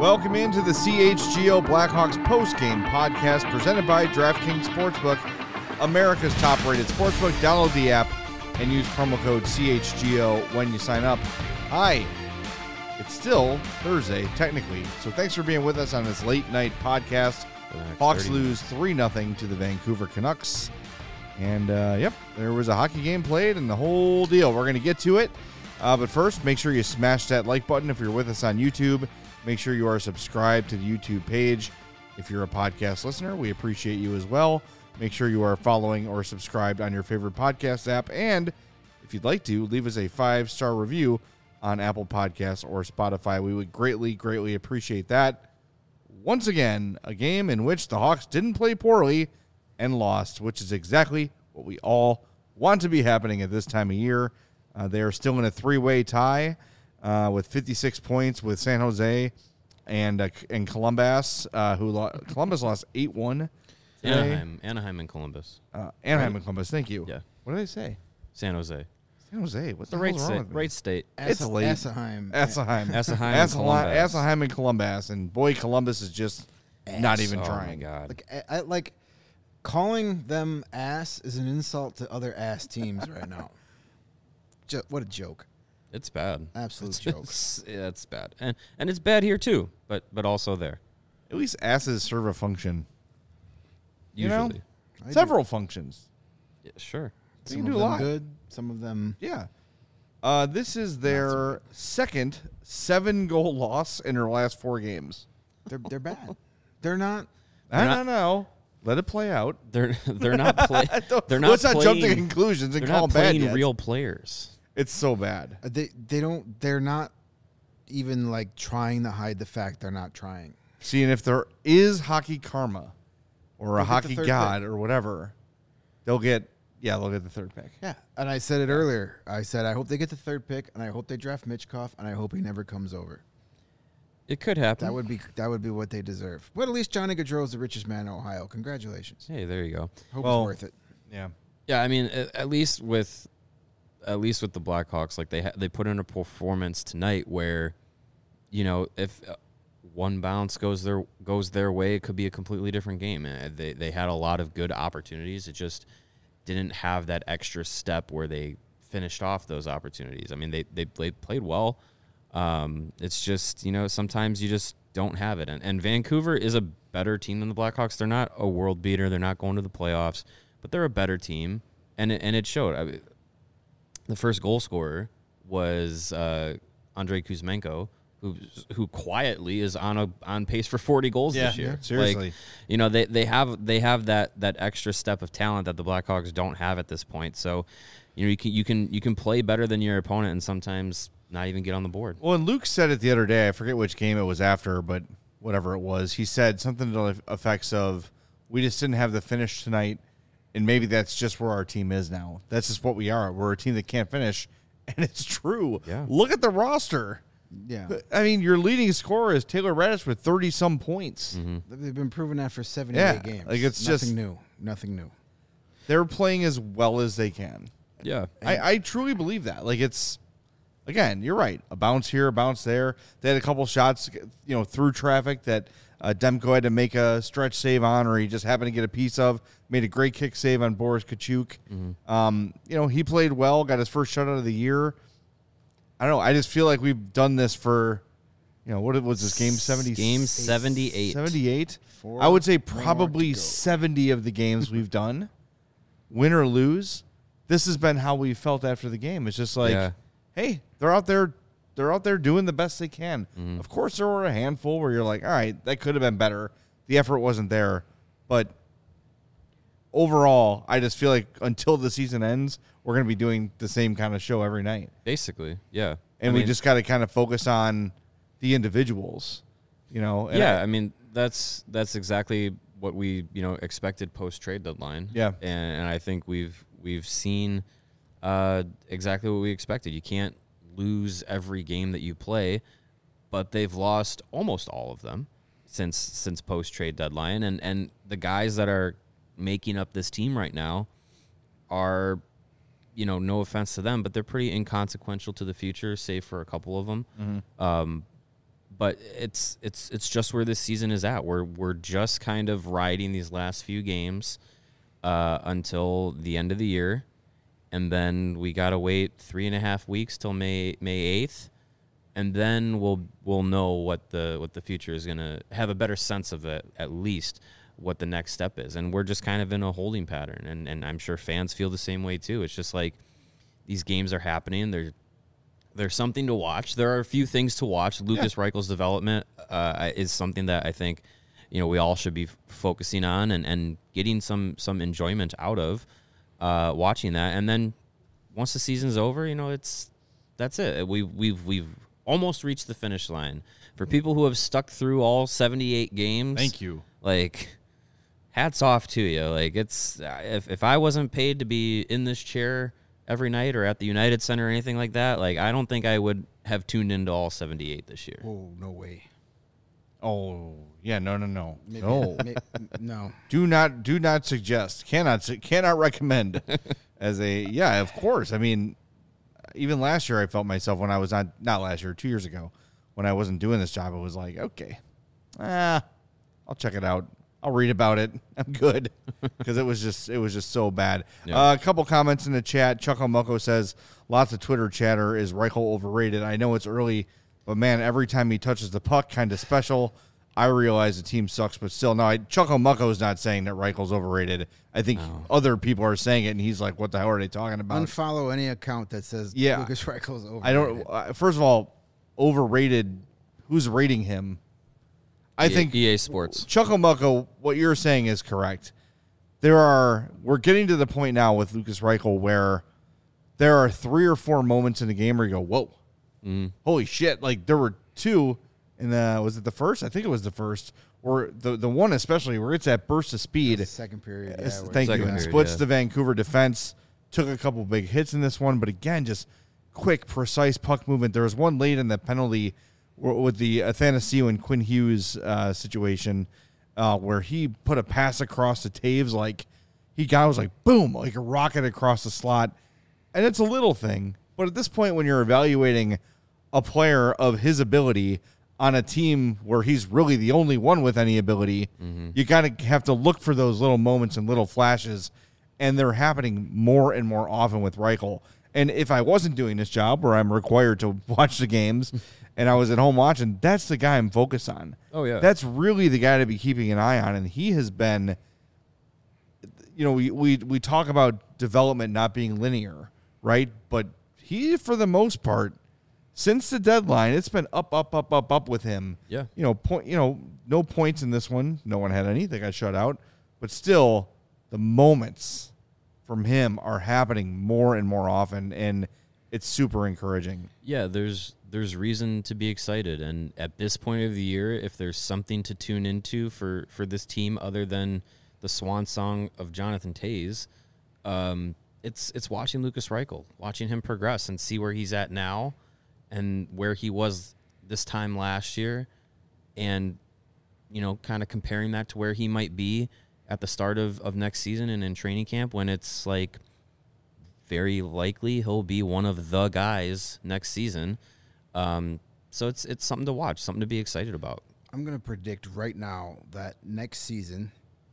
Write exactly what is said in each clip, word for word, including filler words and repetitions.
Welcome into the C H G O Blackhawks postgame podcast presented by DraftKings Sportsbook, America's top-rated sportsbook. Download the app and use promo code C H G O when you sign up. Hi, it's still Thursday, technically, so thanks for being with us on this late-night podcast. Hawks lose three nothing to the Vancouver Canucks. And, uh, yep, there was a hockey game played and the whole deal. We're going to get to it. Uh, but first, make sure you smash that like button if you're with us on YouTube. Make sure you are subscribed to the YouTube page. If you're a podcast listener, we appreciate you as well. Make sure you are following or subscribed on your favorite podcast app. And if you'd like to, leave us a five-star review on Apple Podcasts or Spotify. We would greatly, greatly appreciate that. Once again, a game in which the Hawks didn't play poorly and lost, which is exactly what we all want to be happening at this time of year. Uh, they are still in a three-way tie uh, with fifty-six points with San Jose and uh, and Columbus, uh, who lo- Columbus lost eight one. Anaheim, Anaheim and Columbus. Uh, Anaheim right? and Columbus, thank you. Yeah. What did I say? San Jose. San Jose. What's The the, right hell's wrong state. with me? Right state. It's Asa- late. Anaheim. Anaheim. Anaheim and Anaheim, Columbus. Anaheim and Columbus, and boy, Columbus is just not even Oh, trying. my God. Like, I, I, like calling them ass is an insult to other ass teams right now. Jo- what a joke! It's bad. Absolute It's, joke. it's, yeah, it's bad. And and it's bad here, too, but but also there. At least asses serve a function. You know? Usually. I do. Several functions. Yeah, sure. They Some can of do a them lot. good. Some of them. Yeah. Uh, this is their second seven-goal loss in their last four games. They're they're bad. They're not. I not- don't know. Let it play out. They're they're not play, They're not Let's not jump to playing- conclusions and They're call not them bad playing yet. real players. It's so bad. uh, They they don't. They're not even like trying to hide the fact they're not trying. See, and if there is hockey karma or a They'll get the hockey third god pick. or whatever, they'll get, yeah, they'll get the third pick. Yeah, and I said it earlier. I said I hope they get the third pick, and I hope they draft Mitchkov, and I hope he never comes over. It could happen. That would be that would be what they deserve. But at least Johnny Gaudreau is the richest man in Ohio. Congratulations. Hey, there you go. Hope Well, it's worth it. Yeah. Yeah, I mean, at, at least with at least with the Blackhawks, like they ha- they put in a performance tonight where, you know, if uh, one bounce goes their goes their way, it could be a completely different game. And they they had a lot of good opportunities. It just didn't have that extra step where they finished off those opportunities. I mean, they they played played well. Um, it's just, you know, sometimes you just don't have it. And, and Vancouver is a better team than the Blackhawks. They're not a world beater. They're not going to the playoffs, but they're a better team. And it, and it showed. I mean, the first goal scorer was uh, Andrei Kuzmenko, who who quietly is on a on pace for forty goals Yeah, this year. yeah, seriously. Like, you know, they, they have they have that that extra step of talent that the Blackhawks don't have at this point. So, you know, you can you can you can play better than your opponent and sometimes not even get on the board. Well, and Luke said it the other day. I forget which game it was after, but whatever it was, he said something to the effects of, we just didn't have the finish tonight, and maybe that's just where our team is now. That's just what we are. We're a team that can't finish, and it's true. Yeah. Look at the roster. Yeah. I mean, your leading scorer is Taylor Radish with thirty-some points. Mm-hmm. They've been proving that for seventy-eight Yeah, games. like, it's Nothing just- new. Nothing new. They're playing as well as they can. Yeah. I, I truly believe that. Like, it's, again, you're right. A bounce here, a bounce there. They had a couple shots, you know, through traffic that uh, Demko had to make a stretch save on, or he just happened to get a piece of. Made a great kick save on Boris Kachuk. Mm-hmm. Um, you know, he played well, got his first shutout of the year. I don't know. I just feel like we've done this for, you know, what was this game? seventy Game seventy-eight. seventy-eight. Four I would say more probably to go. seventy of the games we've done, win or lose. This has been how we felt after the game. It's just like, Yeah. hey, they're out there, they're out there doing the best they can. Mm-hmm. Of course, there were a handful where you're like, all right, that could have been better. The effort wasn't there, but overall, I just feel like until the season ends, we're going to be doing the same kind of show every night, Basically, yeah. and I we mean, just got to kind of focus on the individuals, you know. And yeah. I- I mean, that's that's exactly what we you know expected post trade deadline. Yeah. and, and I think we've we've seen uh, exactly what we expected. You can't lose every game that you play, but they've lost almost all of them since since post trade deadline, and and the guys that are making up this team right now are, you know, no offense to them, but they're pretty inconsequential to the future, save for a couple of them. Mm-hmm. Um, but it's it's it's just where this season is at. We're we're just kind of riding these last few games uh, until the end of the year, and then we gotta wait three and a half weeks till May May eighth, and then we'll we'll know what the what the future is gonna have a better sense of it, at least what the next step is. And we're just kind of in a holding pattern, and and I'm sure fans feel the same way too. It's just like these games are happening. They're There's something to watch. There are a few things to watch. Lucas yeah. Reichel's development uh, is something that I think, you know, we all should be f- focusing on and, and getting some some enjoyment out of uh, watching that. And then once the season's over, you know, it's that's it. We we've we've almost reached the finish line. For people who have stuck through all seventy-eight games, thank you. Like, hats off to you. Like, it's if if I wasn't paid to be in this chair every night or at the United Center or anything like that, like, I don't think I would have tuned into all seventy-eight this year. Oh, no way. Oh, yeah, no, no, no. Maybe, no. Maybe, no. Do not, do not suggest, cannot, cannot recommend as a, yeah, of course. I mean, even last year I felt myself when I was on, not last year, two years ago, when I wasn't doing this job, it was like, okay, ah, I'll check it out. I'll read about it. I'm good, because it was just it was just so bad. Yeah. Uh, a couple comments in the chat. Chuckle Mucko says lots of Twitter chatter. Is Reichel overrated? I know it's early, but man, every time he touches the puck, kind of special. I realize the team sucks, but still, no. I, Chuckle Mucko is not saying that Reichel's overrated. I think no. other people are saying it, and he's like, "What the hell are they talking about?" Unfollow any account that says yeah. Lucas Reichel's overrated. I don't. Uh, first of all, overrated. Who's rating him? I E A, think E A Sports. Chuckle Mucko, what you're saying is correct. There are we're getting to the point now with Lucas Reichel where there are three or four moments in the game where you go, whoa, mm. holy shit! Like there were two in the was it the first? I think it was the first, or the the one especially where it's that burst of speed. The second period. Yeah, Thank second you. Period, Splits yeah. the Vancouver defense. Took a couple big hits in this one, but again, just quick, precise puck movement. There was one late in the penalty with the Athanasiou and Quinn Hughes uh, situation uh, where he put a pass across to Taves like he got was like boom, like a rocket across the slot. And it's a little thing, but at this point when you're evaluating a player of his ability on a team where he's really the only one with any ability, mm-hmm. you got to have to look for those little moments and little flashes, and they're happening more and more often with Reichel. And if I wasn't doing this job where I'm required to watch the games and I was at home watching, that's the guy I'm focused on. Oh, yeah. That's really the guy to be keeping an eye on. And he has been, you know, we, we, we talk about development not being linear, right? But he, for the most part, since the deadline, it's been up, up, up, up, up with him. Yeah. You know, point, you know, no points in this one. No one had any. They got shut out. But still, the moments from him are happening more and more often, and it's super encouraging. Yeah, there's there's reason to be excited, and at this point of the year, if there's something to tune into for, for this team other than the swan song of Jonathan Toews, um, it's it's watching Lucas Reichel, watching him progress and see where he's at now and where he was this time last year, and you know, kind of comparing that to where he might be at the start of, of next season and in training camp, when it's like very likely he'll be one of the guys next season. Um, so it's it's something to watch, something to be excited about. I'm going to predict right now that next season,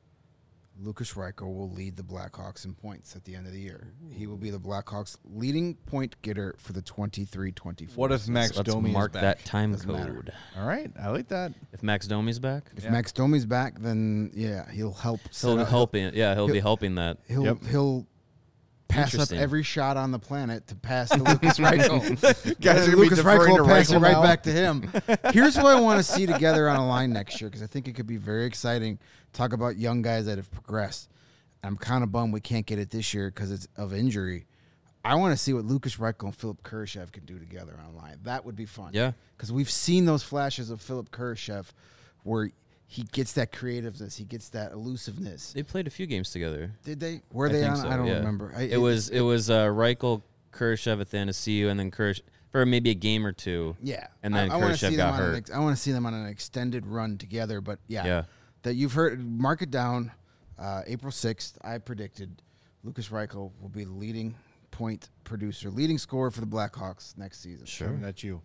Lucas Reichel will lead the Blackhawks in points at the end of the year. He will be the Blackhawks' leading point getter for the twenty-three twenty-four. What if Max Let's Domi mark is back? that time Doesn't code. matter. All right, I like that. If Max Domi's back, If Yeah. Max Domi's back, then yeah, he'll help. set he'll be up- helping. Yeah, he'll, he'll- be helping that. He'll Yep. he'll pass up Interesting. every shot on the planet to pass to Lucas Reichel. Guys are And gonna be Lucas deferring Reichel to will pass Reichel it right now. back to him. Here's what I want to see together on a line next year, because I think it could be very exciting. Talk about young guys that have progressed. I'm kind of bummed we can't get it this year because it's of injury. I want to see what Lucas Reichel and Philip Kurashev can do together online. That would be fun. Yeah. Because we've seen those flashes of Philip Kurashev where he gets that creativeness, he gets that elusiveness. They played a few games together. Did they? Were I they think on? so, I don't yeah. remember. I, It was it was uh, Reichel, Kurashev, Athanasiou, and then Kurashev for maybe a game or two. Yeah, And then I, I wanna Kurashev see got them on an hurt. ex- I want to see them on an extended run together. But yeah, Yeah. that you've heard. Mark it down. Uh, April sixth, I predicted Lucas Reichel will be the leading point producer, leading scorer for the Blackhawks next season. Sure. Kevin, that's you.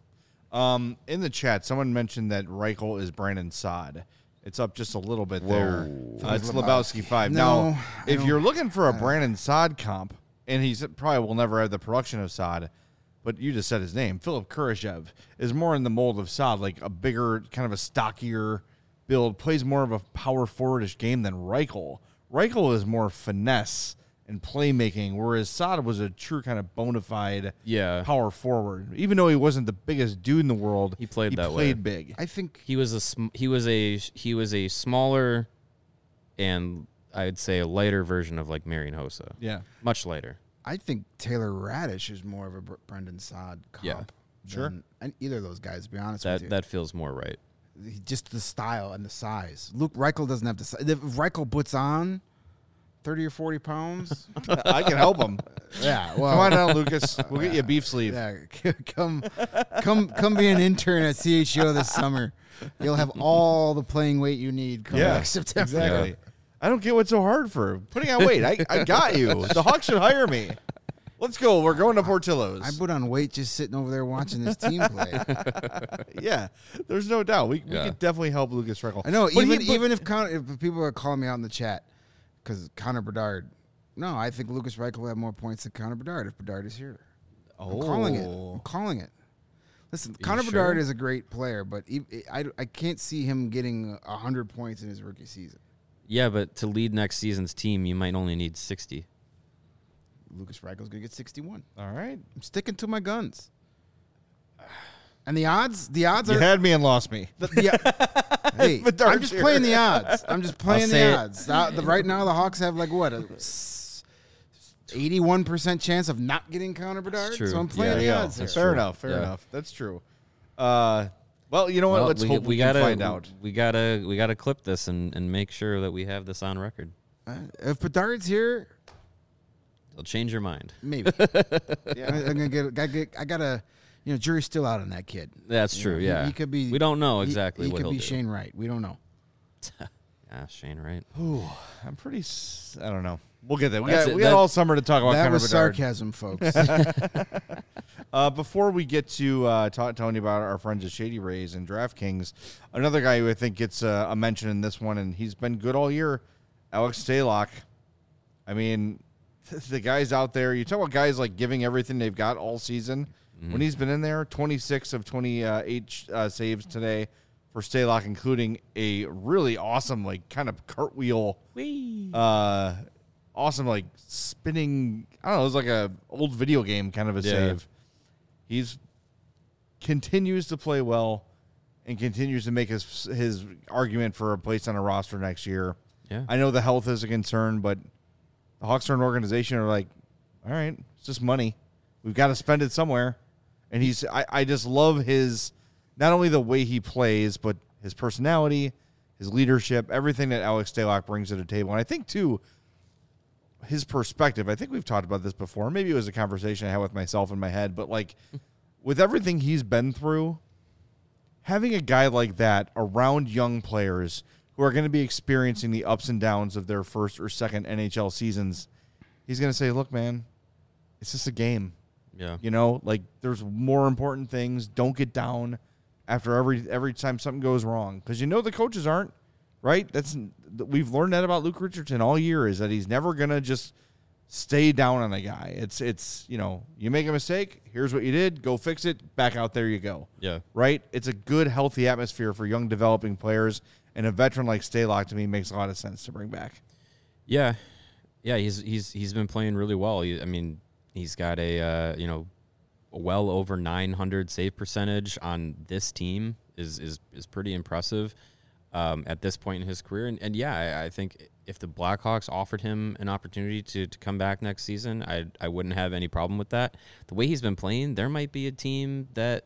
Um, in the chat, someone mentioned that Reichel is Brandon Saad. It's up just a little bit there. Uh, it's Lebowski five. No, now, I if don't- you're looking for a Brandon Saad comp, and he's probably will never have the production of Saad, but you just said his name, Philip Kurashev is more in the mold of Saad, like a bigger, kind of a stockier build, plays more of a power forwardish game than Reichel. Reichel is more finesse and playmaking, whereas Saad was a true kind of bona fide Yeah. power forward. Even though he wasn't the biggest dude in the world, He played he that played way. big. I think He was a sm- he was a he was a smaller and I'd say a lighter version of like Marian Hossa. Yeah. Much lighter. I think Taylor Radish is more of a Br- Brendan Saad comp. Yeah, sure. than- And either of those guys, to be honest That with you. that feels more right. He- just the style and the size. Luke Reichel doesn't have the size. If Reichel puts on thirty or forty pounds, I can help him. yeah, well, Come on down, Lucas. We'll get you a beef sleeve. yeah, come, come, come be an intern at C H G O this summer. You'll have all the playing weight you need come Yeah, next September. Exactly. Yeah. I don't get what's so hard for putting on weight. I, I got you. The Hawks should hire me. Let's go. We're going to Portillo's. I put on weight just sitting over there watching this team play. yeah, there's no doubt. We, we Yeah. could definitely help Lucas Reichel. I know. But Even he- but- even if, Con- if people are calling me out in the chat because Connor Bedard, no, I think Lucas Reichel will have more points than Connor Bedard if Bedard is here. I'm calling it. I'm Oh. calling it. Listen, you Connor sure? Bedard is a great player, but he, I, I can't see him getting one hundred points in his rookie season. Yeah, but to lead next season's team, you might only need sixty. Lucas Reichel's going to get sixty-one. All right. I'm sticking to my guns. And the odds, the odds You are. had me and lost me. The, the, hey, Bedard's I'm just here. playing the odds. I'm just playing say the it. odds. The, the, right now, the Hawks have like what a s- eighty-one percent chance of not getting Connor Bedard. true. So I'm playing Yeah, the Yeah, odds here. fair enough. Fair Yeah. enough. That's true. Uh, well, you know what? Well, Let's we, hope we, we can gotta find out. We gotta we gotta clip this and, and make sure that we have this on record. Uh, if Bedard's here, They'll change your mind. maybe. Yeah. I, I'm gonna get. I, get, I gotta. You know, jury's still out on that kid. That's You true. know, he- yeah, he could be- We don't know He- exactly he, what could he'll be do. Shane Wright. We don't know. Yeah, Shane, right? Ooh, I'm pretty. s- I don't know. We'll get there. We That's got, it. we got That- all summer to talk about that Connor was Bedard. sarcasm, folks. Uh, before we get to uh, ta- telling you about our friends at Shady Rays and DraftKings, another guy who I think gets uh, a mention in this one, and he's been good all year, Alex Stalock. I mean, the guys out there, you talk about guys like giving everything they've got all season. Mm-hmm. When he's been in there, twenty-six of twenty-eight uh, saves today for Stalock, including a really awesome, like, kind of cartwheel, uh, awesome, like, spinning, I don't know, it was like a old video game kind of a Yeah. save. He's continues to play well and continues to make his his argument for a place on a roster next year. Yeah. I know the health is a concern, but the Hawks are an organization are like, all right, it's just money. We've got to spend it somewhere. And he's I, I just love his not only the way he plays, but his personality, his leadership, everything that Alex Stalock brings to the table. And I think too, his perspective, I think we've talked about this before. Maybe it was a conversation I had with myself in my head, but like with everything he's been through, having a guy like that around young players who are going to be experiencing the ups and downs of their first or second N H L seasons, he's going to say, look, man, it's just a game. Yeah. You know, like there's more important things. Don't get down after every every time something goes wrong, because you know the coaches aren't, right? That's we've learned that about Luke Richardson all year, is that he's never gonna just stay down on a guy. It's it's you know, you make a mistake, here's what you did, go fix it, back out there you go. Yeah. Right? It's a good, healthy atmosphere for young developing players, and a veteran like Stalock to me makes a lot of sense to bring back. Yeah, yeah. He's he's he's been playing really well. He, I mean, he's got a uh, you know, well over nine hundred save percentage on this team is is is pretty impressive um, at this point in his career. And, and yeah, I, I think if the Blackhawks offered him an opportunity to, to come back next season, I I wouldn't have any problem with that. The way he's been playing, there might be a team that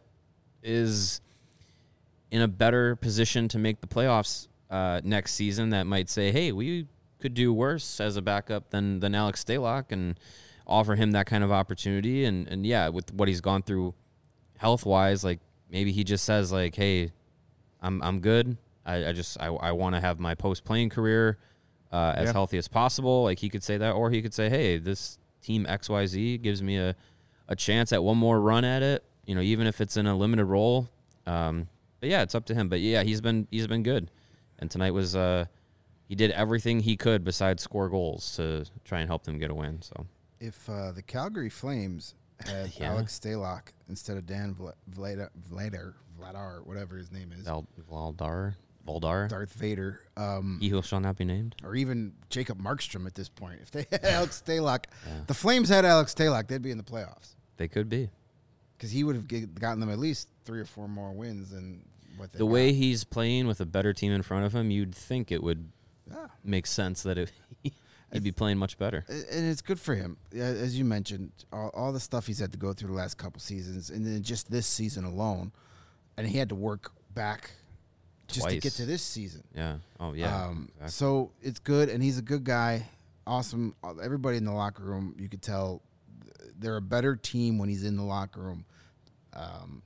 is in a better position to make the playoffs uh, next season that might say, hey, we could do worse as a backup than than Alex Stalock, and offer him that kind of opportunity. And, and yeah, with what he's gone through health-wise, like maybe he just says, like, hey, I'm I'm good. I, I just I, I want to have my post-playing career uh, as Yeah. healthy as possible. Like, he could say that, or he could say, hey, this team X Y Z gives me a, a chance at one more run at it. you know, even if it's in a limited role. Um, but yeah, it's up to him. But yeah, he's been he's been good, and tonight was uh, he did everything he could besides score goals to try and help them get a win. So If uh, the Calgary Flames had Yeah. Alex Stalock instead of Dan Vla- Vlada, Vladar, Vladar, whatever his name is, Val, Valdar, Valdar, Darth Vader, um, he who shall not be named. or even Jacob Markstrom at this point, if they had Alex Stalock, the Flames had Alex Stalock, they'd be in the playoffs They could be. because he would have g- gotten them at least three or four more wins than what they The got. way he's playing with a better team in front of him, you'd think it would Yeah. make sense that it, he'd be playing much better. And it's good for him, Yeah, as you mentioned. All, all the stuff he's had to go through the last couple seasons, and then just this season alone, and he had to work back just to get Twice. to this season. Yeah. Oh yeah. Um, exactly. So it's good, and he's a good guy. Awesome. Everybody in the locker room, you could tell they're a better team when he's in the locker room. Um,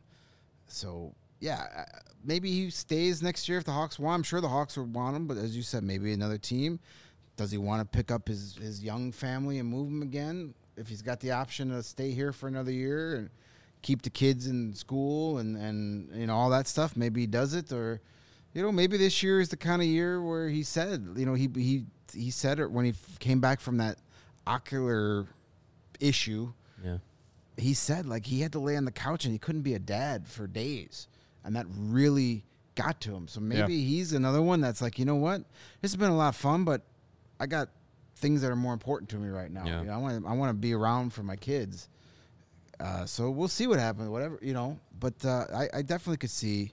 so yeah, uh, maybe he stays next year if the Hawks want. I'm sure the Hawks would want him, but as you said, maybe another team. Does he want to pick up his, his young family and move them again? If he's got the option to stay here for another year and keep the kids in school and, and you know all that stuff, maybe he does it. Or, you know, maybe this year is the kind of year where he said, you know, he he he said it when he f- came back from that ocular issue. yeah. He said like he had to lay on the couch and he couldn't be a dad for days, and that really got to him. So maybe he's another one that's like, you know what, this has been a lot of fun, but I got things that are more important to me right now. Yeah. You know, I want to I want to be around for my kids. Uh, so we'll see what happens. Whatever, you know. But uh, I, I definitely could see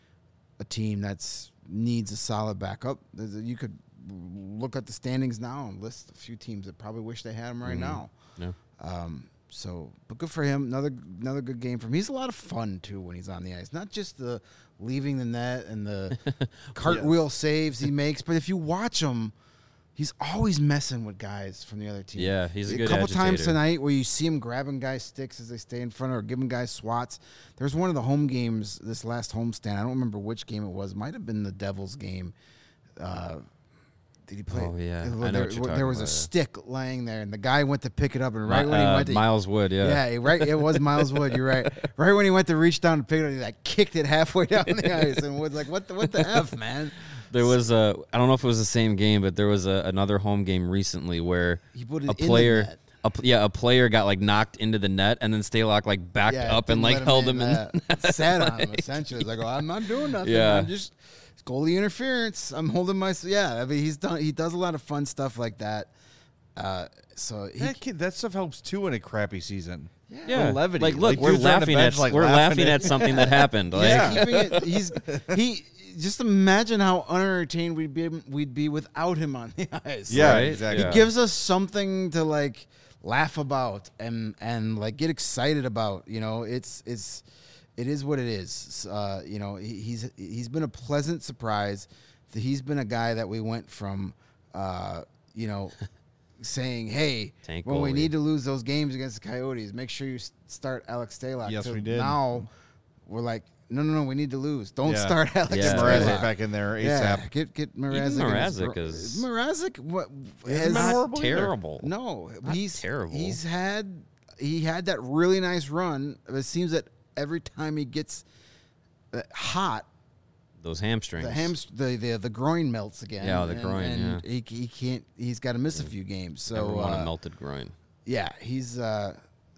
a team that's needs a solid backup. There's a- You could look at the standings now and list a few teams that probably wish they had him right Mhm. now. Yeah. Um, so, but good for him. Another another good game for him. He's a lot of fun too when he's on the ice. Not just the leaving the net and the cartwheel saves he makes, but if you watch him, he's always messing with guys from the other team. Yeah, he's a good couple times agitator. tonight where you see him grabbing guys' sticks as they stay in front or giving guys swats. There's one of the home games, this last homestand. I don't remember which game it was. It might have been the Devils game. Uh, did he play? Oh, yeah. There, I know what you're there talking was a about, yeah. stick laying there, and the guy went to pick it up, and right Mi- when he uh, went to Miles Wood, yeah. yeah, he- right. It was Miles Wood. You're right. Right when he went to reach down to pick it up, he like kicked it halfway down the ice, and was like, "What the what the f, man?" There was a, I don't know if it was the same game, but there was a, another home game recently where He put it a in the player, net. a, pl- yeah, a player got like knocked into the net, and then Stalock like backed Yeah, up and didn't like let held him in. uh, sat on him essentially. It's like, oh, I'm not doing nothing. Yeah. I'm just it's goalie interference. I'm holding my yeah. I mean, he's done. He does a lot of fun stuff like that. Uh, so he, That, kid, that stuff helps too in a crappy season. Yeah, levity. like look, Like, we're dudes on the laughing bench, at like, we're laughing laughing at- at something that happened. Like, Yeah. keeping it, he's he. Just imagine how unentertained we'd be we'd be without him on the ice. Yeah, Right? exactly. Yeah. He gives us something to like laugh about and and like get excited about. You know, it's it's it is what it is. Uh, you know, he, he's he's been a pleasant surprise. He's been a guy that we went from, uh, you know, saying, "Hey, Tank when we goalie. need to lose those games against the Coyotes, make sure you s- start Alex Stalock." Yes, to we did. Now we're like, "No, no, no, we need to lose. Don't Yeah. start Alex Yeah. Mrazek Stalock." back in there Yeah, ASAP. get get Mrazek. Even in his Mrazek ro- is- Mrazek. What Hasn't has been not horrible either. terrible. no, Not he's terrible. He's had he had that really nice run. It seems that every time he gets uh, hot, those hamstrings. the ham the, the the groin melts again. Yeah, the and- groin, And he he can't. He's got to miss a few games. So Never want uh, a melted groin. yeah, he's uh,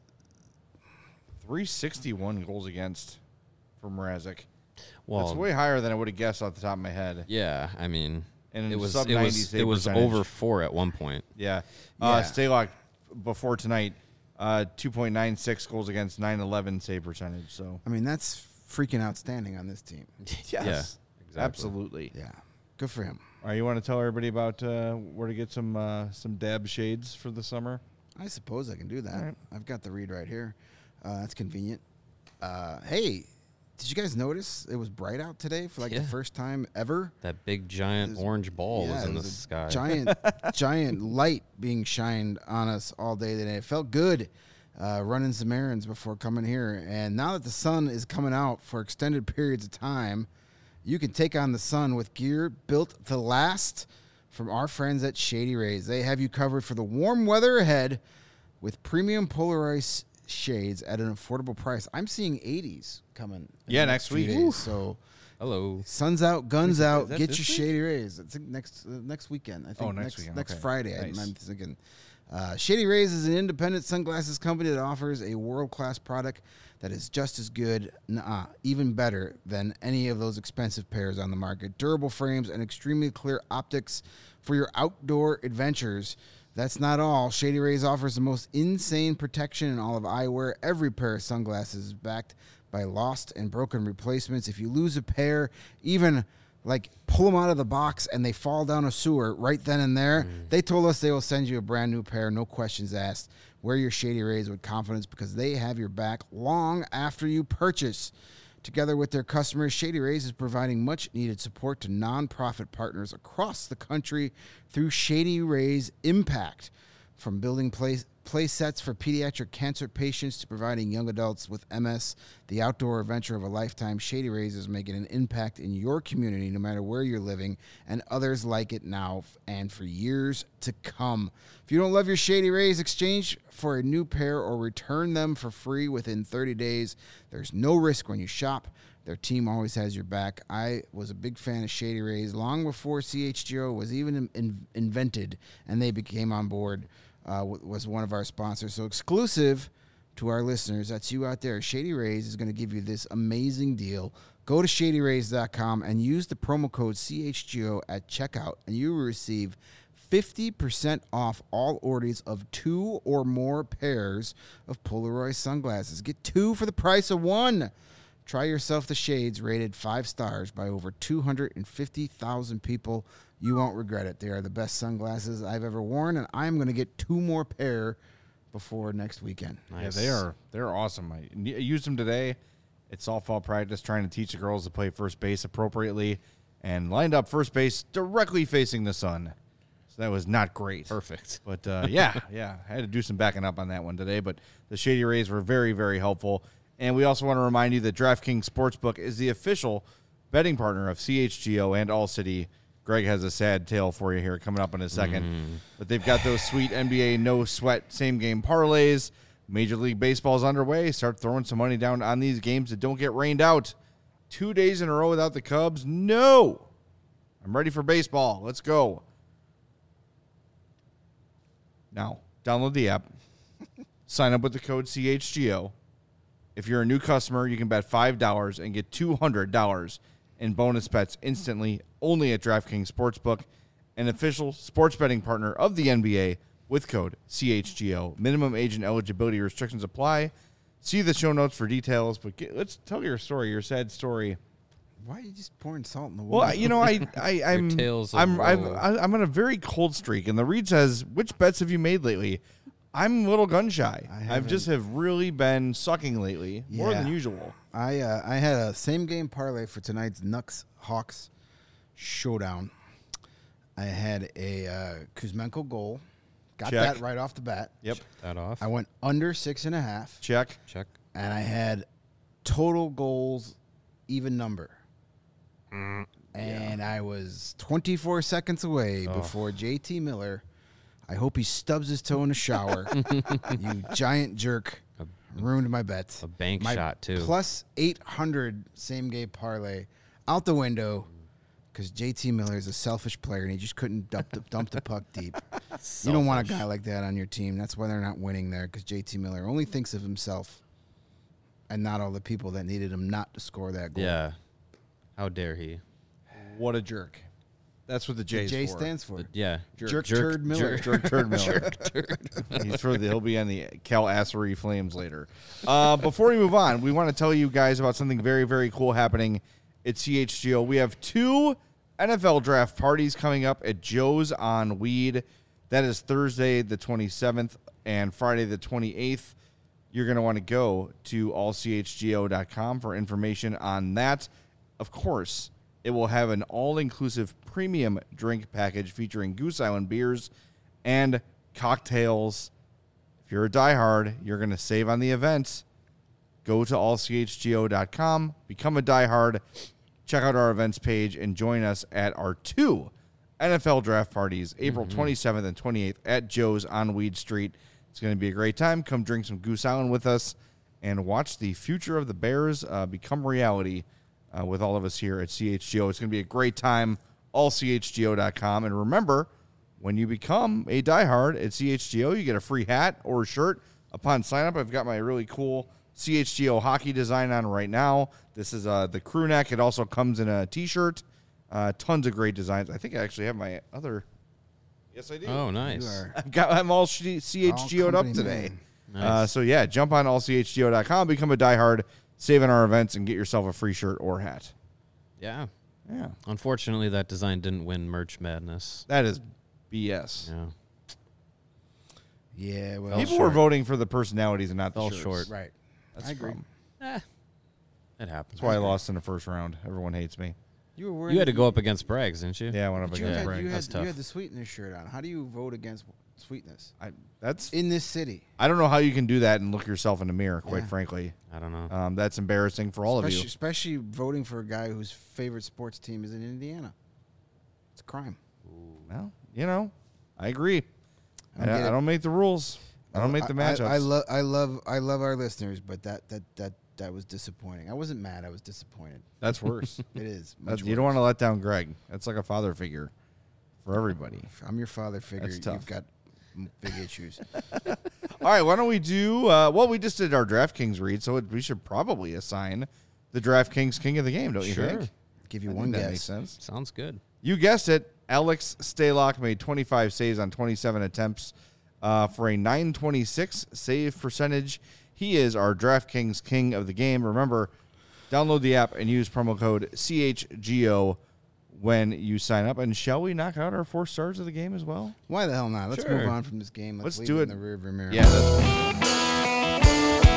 three sixty-one goals against for Mrazek. Well, That's way higher than I would have guessed off the top of my head. yeah, I mean, And it was sub it ninety was save it was percentage. over four at one point. Yeah. Uh, Yeah. Stalock before tonight, uh, two point nine six goals against, nine eleven save percentage. So I mean that's freaking outstanding on this team. Yeah, exactly. absolutely. Yeah, good for him. All right, you want to tell everybody about uh, where to get some uh, some dab shades for the summer? I suppose I can do that. All right. I've got the read right here. Uh, that's convenient. Uh, hey, did you guys notice it was bright out today for like Yeah. the first time ever? That big giant It was- orange ball Yeah, was it in the was a sky. Giant, giant light being shined on us all day today. It felt good uh, running some errands before coming here. And now that the sun is coming out for extended periods of time, you can take on the sun with gear built to last from our friends at Shady Rays. They have you covered for the warm weather ahead with premium polarized shades at an affordable price. I'm seeing eighties coming. in Yeah, the next few week. days. Oof. So Hello. sun's out, guns Is out. that Get this your week? Shady Rays. It's next uh, next weekend. I think Oh, next next weekend. next Okay. Friday. I- Nice. I'm thinking. Uh, Shady Rays is an independent sunglasses company that offers a world-class product that is just as good, nah, even better than any of those expensive pairs on the market. Durable frames and extremely clear optics for your outdoor adventures. That's not all. Shady Rays offers the most insane protection in all of eyewear. Every pair of sunglasses is backed by lost and broken replacements. If you lose a pair, even like pull them out of the box and they fall down a sewer right then and there, mm. they told us they will send you a brand new pair, no questions asked. Wear your Shady Rays with confidence because they have your back long after you purchase. Together with their customers, Shady Rays is providing much-needed support to nonprofit partners across the country through Shady Rays Impact. From building play, play sets for pediatric cancer patients to providing young adults with M S the outdoor adventure of a lifetime, Shady Rays is making an impact in your community no matter where you're living, and others like it now and for years to come. If you don't love your Shady Rays, exchange for a new pair or return them for free within thirty days. There's no risk when you shop. Their team always has your back. I was a big fan of Shady Rays long before C H G O was even in, in, invented, and they became on board, uh, was one of our sponsors. So exclusive to our listeners, that's you out there, Shady Rays is going to give you this amazing deal. Go to shady rays dot com and use the promo code C H G O at checkout, and you will receive fifty percent off all orders of two or more pairs of Polaroid sunglasses. Get two for the price of one. Try yourself the shades rated five stars by over two hundred fifty thousand people. You won't regret it. They are the best sunglasses I've ever worn, and I'm going to get two more pair before next weekend. Nice. Yeah, they are they're awesome. I used them today at softball practice trying to teach the girls to play first base appropriately and lined up first base directly facing the sun. So that was not great. Perfect. But, uh, yeah, yeah, I had to do some backing up on that one today. But the Shady Rays were very, very helpful. And we also want to remind you that DraftKings Sportsbook is the official betting partner of C H G O and All City. Greg has a sad tale for you here coming up in a second. Mm. But they've got those sweet N B A no-sweat same-game parlays. Major League Baseball is underway. Start throwing some money down on these games that don't get rained out. Two days in a row without the Cubs? No. I'm ready for baseball. Let's go. Now, download the app. Sign up with the code C H G O. If you're a new customer, you can bet five dollars and get two hundred dollars in bonus bets instantly only at DraftKings Sportsbook, an official sports betting partner of the N B A with code C H G O. Minimum age and eligibility restrictions apply. See the show notes for details, but get, let's tell your story, your sad story. Why are you just pouring salt in the wound? Well, you know, I, I, I'm, I'm, I'm, I'm on a very cold streak, and the read says, which bets have you made lately? I'm a little gun shy. I've just have really been sucking lately, yeah. more than usual. I uh, I had a same game parlay for tonight's Nucks Hawks showdown. I had a uh, Kuzmenko goal. Got Check. that right off the bat. Yep. Check that off. I went under six and a half. Check. Check. And I had total goals even number. Mm, and yeah. I was twenty-four seconds away oh. before J T Miller. I hope he stubs his toe in the shower. You giant jerk. A, ruined my bet. A bank my shot, too. Plus eight hundred same game parlay out the window because J T Miller is a selfish player and he just couldn't dump the, dump the puck deep. Selfish. You don't want a guy like that on your team. That's why they're not winning there, because J T Miller only thinks of himself and not all the people that needed him not to score that goal. Yeah. How dare he? What a jerk. That's what the J the J for. stands for. The, yeah. Jerk, jerk, jerk Turd Miller. Jerk, jerk Turd Miller. Jerk Turd. He's for the, he'll be on the Cal Assery Flames later. Uh, before we move on, we want to tell you guys about something very, very cool happening at C H G O. We have two N F L draft parties coming up at Joe's on Weed. That is Thursday the twenty-seventh and Friday the twenty-eighth. You're going to want to go to all c h g o dot com for information on that. Of course, it will have an all-inclusive premium drink package featuring Goose Island beers and cocktails. If you're a diehard, you're going to save on the event. Go to all c h g o dot com, become a diehard, check out our events page, and join us at our two N F L draft parties, April mm-hmm. twenty-seventh and twenty-eighth at Joe's on Weed Street. It's going to be a great time. Come drink some Goose Island with us and watch the future of the Bears uh, become reality uh, with all of us here at C H G O. It's going to be a great time, all C H G O dot com. And remember, when you become a diehard at C H G O, you get a free hat or a shirt upon sign up. I've got my really cool C H G O hockey design on right now. This is uh, the crew neck. It also comes in a T-shirt. Uh, tons of great designs. I think I actually have my other... Yes, I do. Oh, nice. You are I've got I'm all C H G O'd up today. Nice. Uh, so yeah, jump on all C H G O dot com, become a diehard, save in our events, and get yourself a free shirt or hat. Yeah. Yeah, Unfortunately, that design didn't win Merch Madness. that is B S. Yeah. Yeah, well, Fell People short. were voting for the personalities and not the Fell shirts. short. right. That's I agree. fun. Eh, it happens. That's why I lost in the first round. Everyone hates me. You were wearing. You had to go up against Braggs, didn't you? Yeah, I went up But you against had, Bragg. you, had, That's tough. you had the Sweetness shirt on. How do you vote against Sweetness I, that's in this city? I don't know how you can do that and look yourself in the mirror. Quite Yeah. frankly, I don't know. um, that's embarrassing for all especially, of you. especially voting for a guy whose favorite sports team is in Indiana. It's a crime. Well, you know, I agree. I, I don't get I it. don't make the rules. I don't make the matchups. I, I love, I love, I love our listeners, but that, that, that, that was disappointing. I wasn't mad. I was disappointed. That's worse. It is. That's, much you don't worse. want to let down Greg. That's like a father figure for everybody. I'm your father figure. That's tough. You've got m- big issues. All right, why don't we do? Uh, well, we just did our DraftKings read, so it, we should probably assign the DraftKings King of the Game, don't you Sure. think? Give you I one think that guess. makes sense. Sounds good. You guessed it. Alex Stalock made twenty-five saves on twenty-seven attempts uh, for a nine twenty-six save percentage. He is our DraftKings King of the Game. Remember, download the app and use promo code C H G O when you sign up. And shall we knock out our four stars of the game as well? Why the hell not? Let's Sure. move on from this game. Let's, Let's leave do it it. in the rearview mirror. Yeah, that's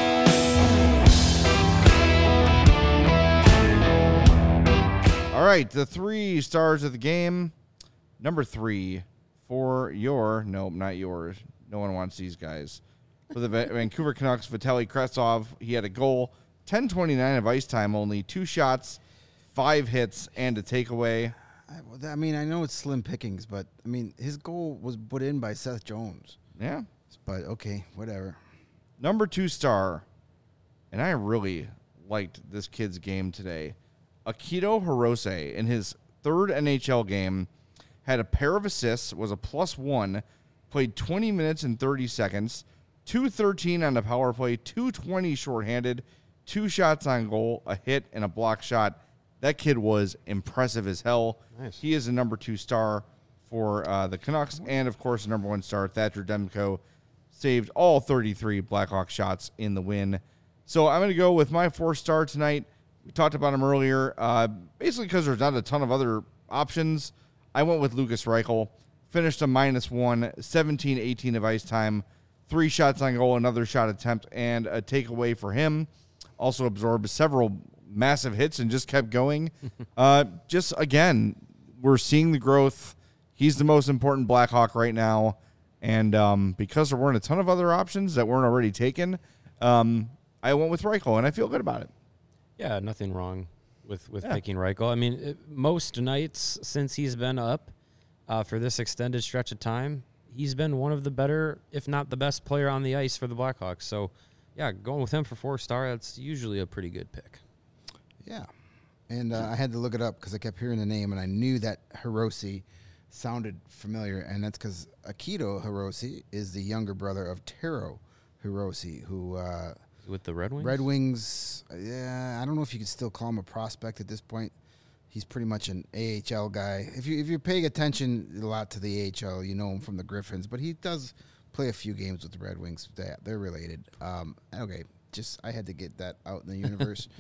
all right. The three stars of the game. Number three for your, nope, not yours. No one wants these guys. For the Va- Vancouver Canucks, Vitaly Kravtsov, he had a goal, ten twenty-nine of ice time only, two shots, five hits, and a takeaway. I, well, I mean, I know it's slim pickings, but I mean, his goal was put in by Seth Jones. Yeah. But okay, whatever. Number two star, and I really liked this kid's game today. Akito Hirose, in his third N H L game, had a pair of assists, was a plus one, played twenty minutes and thirty seconds, two thirteen on the power play, two twenty shorthanded, two shots on goal, a hit, and a block shot. That kid was impressive as hell. Nice. He is the number two star for uh, the Canucks, and of course, the number one star, Thatcher Demko, saved all thirty-three Blackhawks shots in the win. So I'm going to go with my four star tonight. We talked about him earlier. Uh, basically, because there's not a ton of other options, I went with Lucas Reichel. Finished a minus one, seventeen eighteen of ice time, three shots on goal, another shot attempt, and a takeaway for him. Also absorbed several massive hits and just kept going. uh, just, again, we're seeing the growth. He's the most important Blackhawk right now. And um, because there weren't a ton of other options that weren't already taken, um, I went with Reichel, and I feel good about it. Yeah, nothing wrong with, with Yeah. picking Reichel. I mean, it, most nights since he's been up uh, for this extended stretch of time, he's been one of the better, if not the best player on the ice for the Blackhawks. So, yeah, going with him for four star, that's usually a pretty good pick. Yeah. And uh, I had to look it up because I kept hearing the name, and I knew that Hirose sounded familiar, and that's because Akito Hirose is the younger brother of Taro Hirose, who uh, With the Red Wings? Red Wings, uh, yeah, I don't know if you could still call him a prospect at this point. He's pretty much an A H L guy. If you if you're paying attention a lot to the A H L, you know him from the Griffins, but he does play a few games with the Red Wings. They, they're related. Um, okay, just I had to get that out in the universe.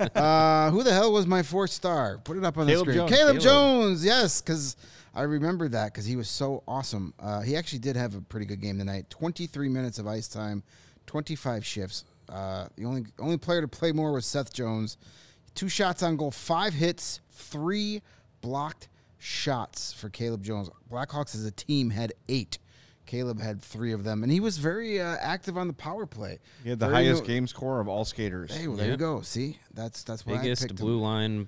uh, who the hell was my fourth star? Put it up on Caleb the screen. Jones. Caleb, Caleb. Jones, yes, because I remember that because he was so awesome. Uh, he actually did have a pretty good game tonight. twenty-three minutes of ice time, twenty-five shifts. Uh, the only only player to play more was Seth Jones. Two shots on goal, five hits, three blocked shots for Caleb Jones. Blackhawks as a team had eight. Caleb had three of them, and he was very uh, active on the power play. He had the Very highest no- game score of all skaters. Hey, well, there you Yep. go. See, that's that's why I Biggest picked blue him. line.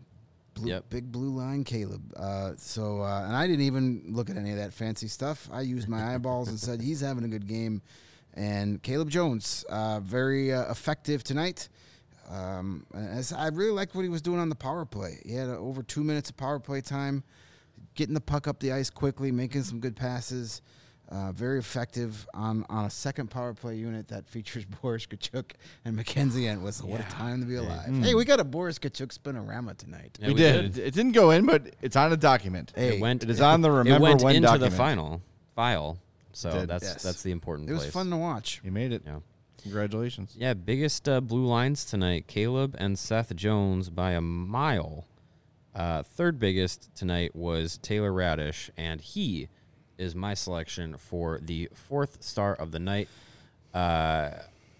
Blue, Yep. Big blue line Caleb. Uh, so, uh, and I didn't even look at any of that fancy stuff. I used my eyeballs and said, he's having a good game. And Caleb Jones, uh, very uh, effective tonight. Um, as I really liked what he was doing on the power play. He had uh, over two minutes of power play time, getting the puck up the ice quickly, making some good passes. Uh, very effective on, on a second power play unit that features Boris Kachuk and Mackenzie Entwistle. What a time to be alive. Mm. Hey, we got a Boris Kachuk spinorama tonight. Yeah, we, we did. did. It, it didn't go in, but it's on a document. Hey, It went. It is on the Remember It went When into document. the final file. So did. that's Yes. that's the important It was place. fun to watch. You made it. Yeah. Congratulations. Yeah, biggest uh, blue lines tonight. Caleb and Seth Jones by a mile. Uh, third biggest tonight was Taylor Radish, and he is my selection for the fourth star of the night. Uh,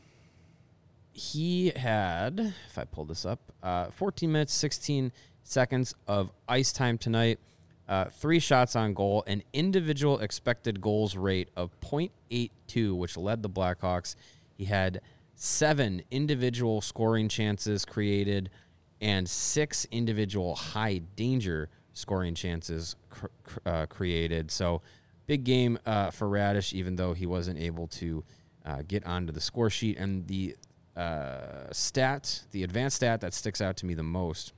he had, if I pull this up, uh, fourteen minutes, sixteen seconds of ice time tonight, uh, three shots on goal, an individual expected goals rate of point eight two, which led the Blackhawks. He had seven individual scoring chances created and six individual high danger scoring chances cr- cr- uh, created. So big game uh, for Radish, even though he wasn't able to uh, get onto the score sheet. And the uh, stat, the advanced stat that sticks out to me the most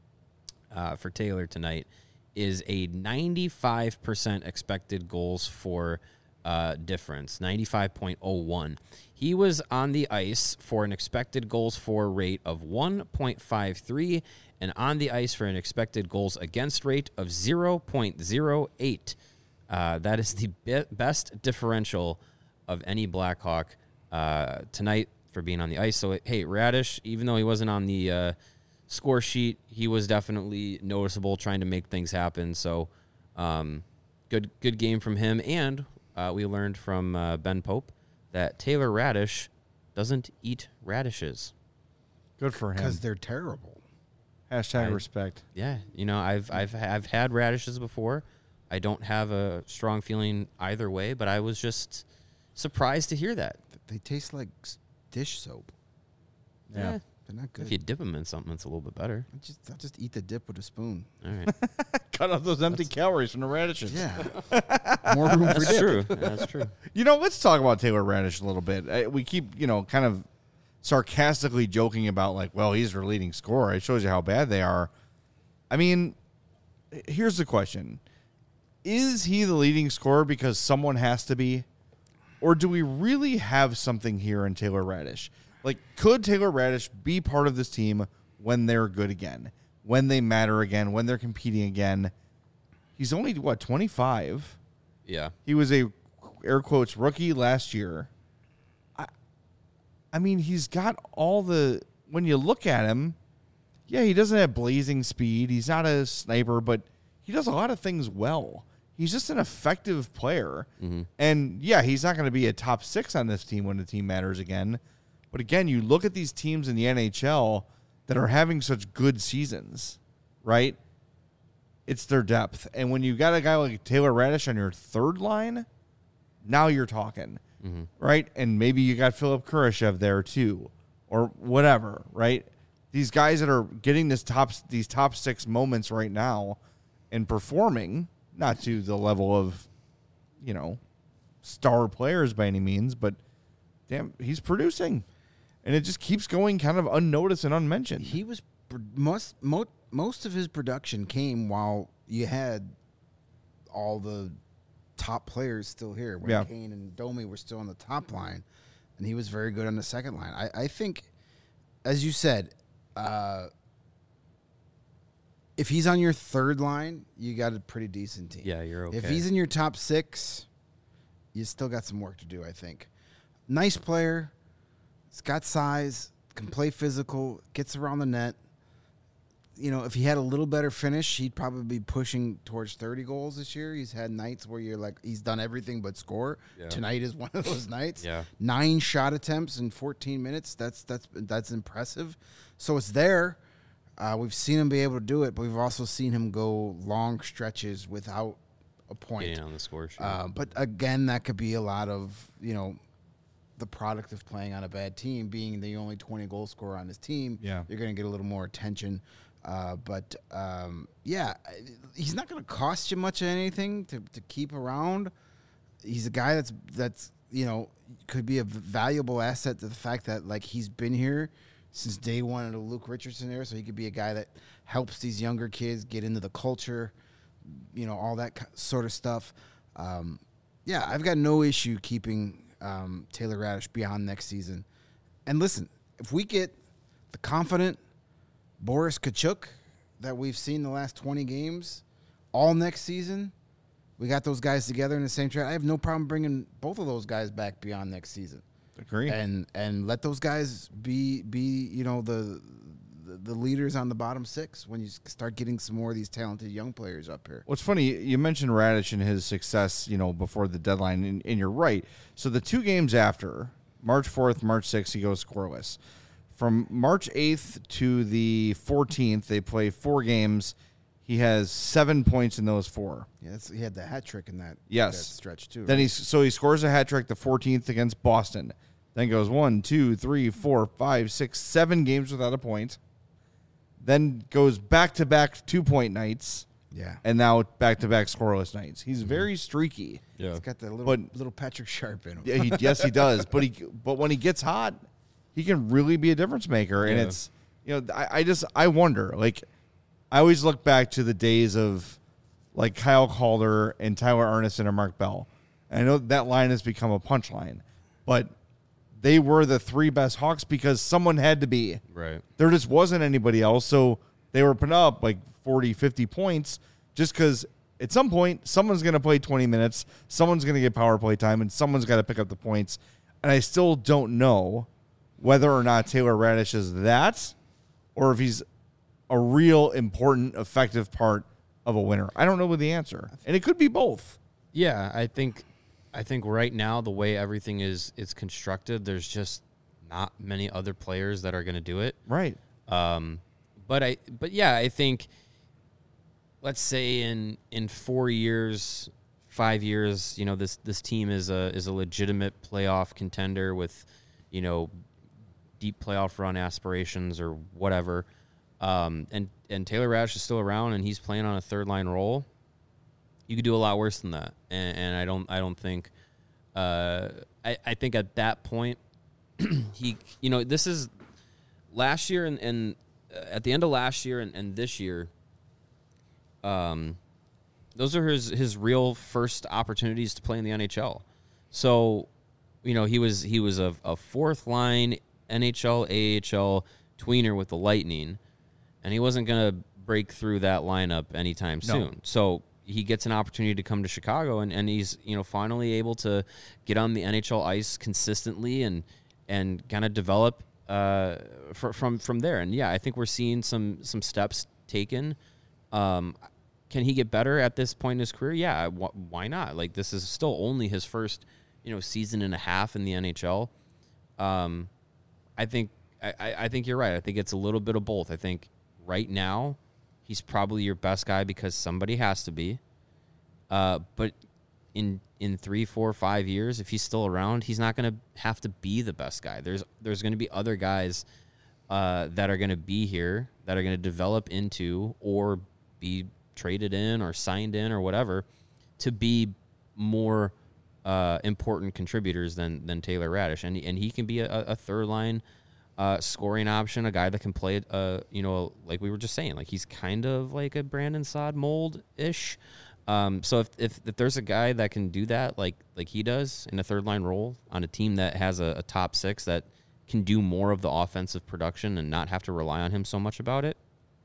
uh, for Taylor tonight is a ninety-five percent expected goals for uh, difference, ninety-five point oh one. He was on the ice for an expected goals for rate of one point five three and on the ice for an expected goals against rate of zero point zero eight. Uh, that is the be- best differential of any Blackhawk uh, tonight for being on the ice. So, hey, Radish, even though he wasn't on the uh, score sheet, he was definitely noticeable trying to make things happen. So, um, good good game from him. And uh, we learned from uh, Ben Pope that Taylor Radish doesn't eat radishes. Good for him. Because they're terrible. Hashtag I- respect. Yeah, you know, I've I've I've had radishes before. I don't have a strong feeling either way, but I was just surprised to hear that. They taste like s- dish soap. Yeah. Eh, They're not good. if you dip them in something, it's a little bit better. I just, I just eat the dip with a spoon. All right, Cut off those empty calories from the radishes. Yeah. More room for that's dip. true. That's true. You know, let's talk about Taylor Radish a little bit. I, we keep, you know, kind of sarcastically joking about, like, well, he's their leading scorer. It shows you how bad they are. I mean, here's the question. Is he the leading scorer because someone has to be? Or do we really have something here in Taylor Radish? Like, could Taylor Radish be part of this team when they're good again, when they matter again, when they're competing again? He's only, what, twenty-five? Yeah, He was a, air quotes, rookie last year. I, I mean, he's got all the, when you look at him, yeah, he doesn't have blazing speed. He's not a sniper, but he does a lot of things well. He's just an effective player. Mm-hmm. And, yeah, he's not going to be a top six on this team when the team matters again. But, again, you look at these teams in the N H L that are having such good seasons, right? It's their depth. And when you got a guy like Taylor Radish on your third line, now you're talking, Mm-hmm. right? And maybe you got Philip Kurashev there too, or whatever, right? These guys that are getting this top, these top six moments right now and performing, not to the level of, you know, star players by any means, but damn, he's producing. And it just keeps going kind of unnoticed and unmentioned. He was pr- most mo- most of his production came while you had all the top players still here. When Yeah. Kane and Domi were still on the top line, and he was very good on the second line. I, I think, as you said, uh, if he's on your third line, you got a pretty decent team. yeah, you're okay. If he's in your top six, you still got some work to do, I think. Nice player. He's got size, can play physical, gets around the net. You know, if he had a little better finish, he'd probably be pushing towards thirty goals this year. He's had nights where you're like, he's done everything but score. Yeah. Tonight is one of those nights. Yeah. Nine shot attempts in fourteen minutes. That's that's that's impressive. So it's there. Uh, we've seen him be able to do it, but we've also seen him go long stretches without a point. getting on the score sheet. Uh, but again, that could be a lot of, you know, the product of playing on a bad team, being the only twenty goal scorer on his team. Yeah. You're going to get a little more attention. Uh, but, um, yeah, he's not going to cost you much of anything to, to keep around. he's a guy that's that's you know could be a valuable asset to the fact that like he's been here since day one of the Luke Richardson era, so he could be a guy that helps these younger kids get into the culture, you know, all that sort of stuff. Um, yeah, I've got no issue keeping um, Taylor Radish beyond next season. And listen, if we get the confident Boris Tkachuk that we've seen the last twenty games all next season, we got those guys together in the same trade. I have no problem bringing both of those guys back beyond next season. Agree. And and let those guys be be you know the, the the leaders on the bottom six when you start getting some more of these talented young players up here. What's funny, you mentioned Radish and his success, you know, before the deadline, and, and you're right. So the two games after, March fourth, March sixth, he goes scoreless. From March eighth to the fourteenth, they play four games. He has seven points in those four. Yeah, that's, he had the hat trick in that, yes. that stretch too. Then right? he's so he scores a hat trick the fourteenth against Boston. Then goes one, two, three, four, five, six, seven games without a point. Then goes back to back two point nights. Yeah, and now back to back scoreless nights. He's very streaky. Yeah. he's got that little But- little Patrick Sharp in him. Yeah, he, yes, he does. But he but when he gets hot, he can really be a difference maker. And Yeah. it's you know I, I just I wonder like I always look back to the days of like Kyle Calder and Tyler Arneson and Mark Bell. And I know that line has become a punchline, but they were the three best Hawks because someone had to be. Right. There just wasn't anybody else, so they were putting up like forty, fifty points just because at some point someone's going to play twenty minutes, someone's going to get power play time, and someone's got to pick up the points. And I still don't know whether or not Taylor Radish is that or if he's a real important, effective part of a winner. I don't know the answer. And it could be both. Yeah, I think I think right now the way everything is is constructed, there's just not many other players that are going to do it. Right. Um, but I but yeah, I think let's say in in four years, five years, you know, this this team is a is a legitimate playoff contender with, you know, deep playoff run aspirations or whatever. Um, and and Taylor Radish is still around and he's playing on a third line role. You could do a lot worse than that, and, and I don't. I don't think. Uh, I, I think at that point, he. You know, this is last year and, and uh, at the end of last year and, and this year. Um, those are his his real first opportunities to play in the N H L. So, you know, he was he was a, a fourth line N H L A H L tweener with the Lightning, and he wasn't gonna break through that lineup anytime No. soon. So. He gets an opportunity to come to Chicago, and, and he's you know finally able to get on the N H L ice consistently and and kind of develop uh, fr- from from there. And yeah, I think we're seeing some some steps taken. Um, can he get better at this point in his career? Yeah, wh- why not? Like this is still only his first you know season and a half in the N H L. Um, I think I, I think you're right. I think it's a little bit of both. I think right now. He's probably your best guy because somebody has to be. Uh, but in in three, four, five years, if he's still around, he's not going to have to be the best guy. There's there's going to be other guys uh, that are going to be here that are going to develop into or be traded in or signed in or whatever to be more uh, important contributors than than Taylor Radish, and and he can be a, a third line. Uh, scoring option, a guy that can play, uh, you know, like we were just saying, like he's kind of like a Brandon Saad mold-ish. Um, so if, if if there's a guy that can do that, like like he does in a third line role on a team that has a, a top six that can do more of the offensive production and not have to rely on him so much about it,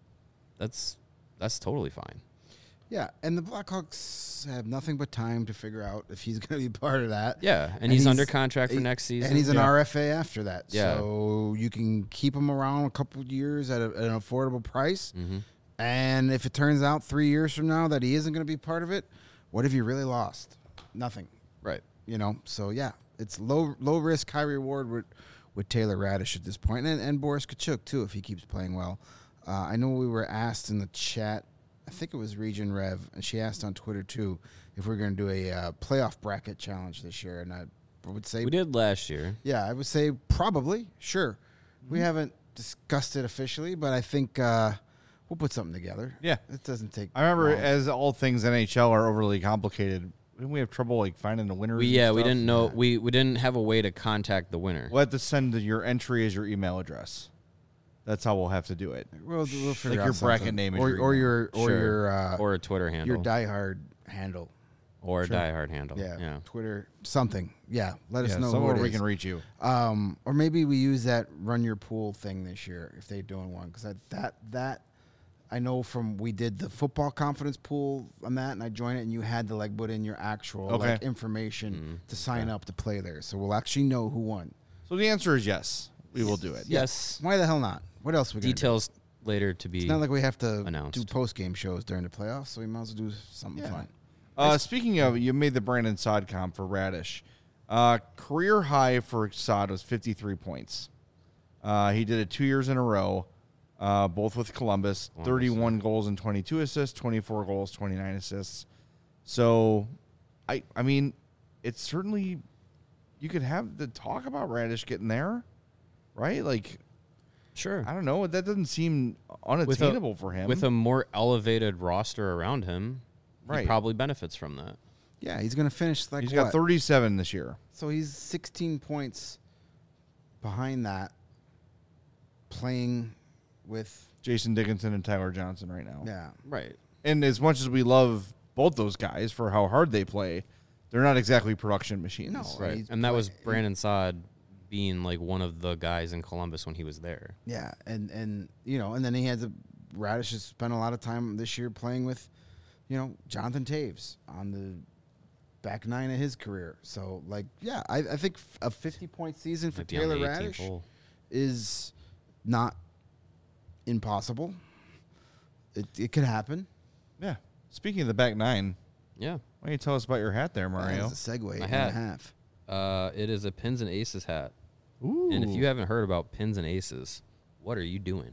that's that's totally fine. Yeah, and the Blackhawks have nothing but time to figure out if he's going to be part of that. Yeah, and, And he's, he's- under contract for he- next season. And he's an Yeah. R F A after that. Yeah. So you can keep him around a couple of years at, a, at an affordable price. Mm-hmm. And if it turns out three years from now that he isn't going to be part of it, what have you really lost? Nothing. Right. You know, so yeah, it's low low risk, high reward with, with Taylor Radish at this point. And, and Boris Tkachuk, too, if he keeps playing well. Uh, I know we were asked in the chat, I think it was Region Rev, and she asked on Twitter, too, if we're going to do a uh, playoff bracket challenge this year. And I would say, We did last year. yeah, I would say probably, sure. We haven't discussed it officially, but I think uh, we'll put something together. Yeah. It doesn't take I remember long. as all things N H L are overly complicated, didn't we have trouble like finding the winners? We and yeah, we stuff? didn't know we, we didn't have a way to contact the winner. We'll have to send your entry as your email address. That's how we'll have to do it. We'll, we'll figure Like out your bracket something. name is or your or email. your or Sure. your uh, or a Twitter handle. your diehard handle. or a Sure. diehard handle. Yeah, Yeah. Twitter, something. Yeah, let us Yeah, know somewhere who it we is. can reach you. Um, or maybe we use that run your pool thing this year if they're doing one because that that I know from we did the football confidence pool on that and I joined it and you had to like put in your actual Okay. like information Mm, to sign up to play there, so we'll actually know who won. So the answer is yes. We will do it. Yes. Why the hell not? What else we gonna do? Details later to be. It's not like we have to announced. do post game shows during the playoffs, so we might as well do something Yeah. fun. Uh, speaking of, you made the Brandon Saad comp for Radish. Uh, career high for Saad was fifty-three points. Uh, he did it two years in a row, uh, both with Columbus. Columbus, thirty-one goals and twenty-two assists, twenty-four goals, twenty-nine assists. So, I I mean, it's certainly, you could have the talk about Radish getting there, right? Like, Sure. I don't know. That doesn't seem unattainable for him. With a more elevated roster around him, Right. he probably benefits from that. Yeah, he's gonna finish like He's what? got thirty-seven this year. So he's sixteen points behind that, playing with Jason Dickinson and Tyler Johnson right now. yeah. Right. And as much as we love both those guys for how hard they play, they're not exactly production machines. No. Right. he's And that was play- Brandon Saad being like one of the guys in Columbus when he was there. Yeah, and and you know, and then he has a Radish has spent a lot of time this year playing with, you know, Jonathan Taves on the back nine of his career. So like, yeah, I, I think f- a fifty point season for Might be on Taylor the eighteenth Radish hole. is not impossible. It it could happen. Yeah. Speaking of the back nine, Yeah. why don't you tell us about your hat there, Mario? That's a segue My and hat. a half. Uh, it is a Pins and Aces hat. Ooh. And if you haven't heard about Pins and Aces, what are you doing?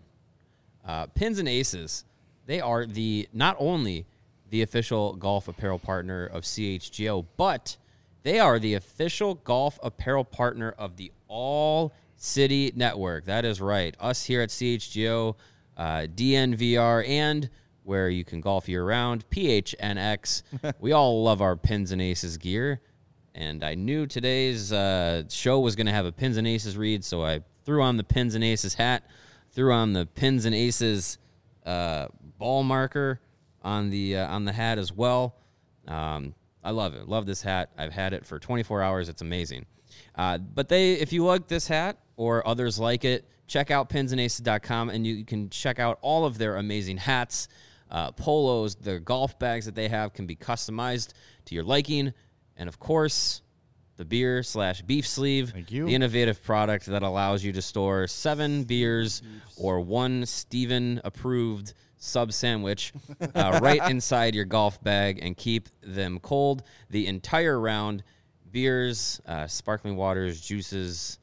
Uh, Pins and Aces, they are the not only the official golf apparel partner of C H G O, but they are the official golf apparel partner of the All City Network. That is right. Us here at C H G O, uh, D N V R, and where you can golf year-round, P H N X. We all love our Pins and Aces gear. And I knew today's uh, show was going to have a Pins and Aces read, so I threw on the Pins and Aces hat, threw on the Pins and Aces uh, ball marker on the uh, on the hat as well. Um, I love it. Love this hat. I've had it for twenty-four hours. It's amazing. Uh, but they, if you like this hat or others like it, check out pins and aces dot com, and you can check out all of their amazing hats, uh, polos, their golf bags that they have can be customized to your liking. And, of course, the beer slash beef sleeve, Thank you. the innovative product that allows you to store seven beers or one Steven-approved sub sandwich uh, right inside your golf bag and keep them cold the entire round. Beers, uh, sparkling waters, juices,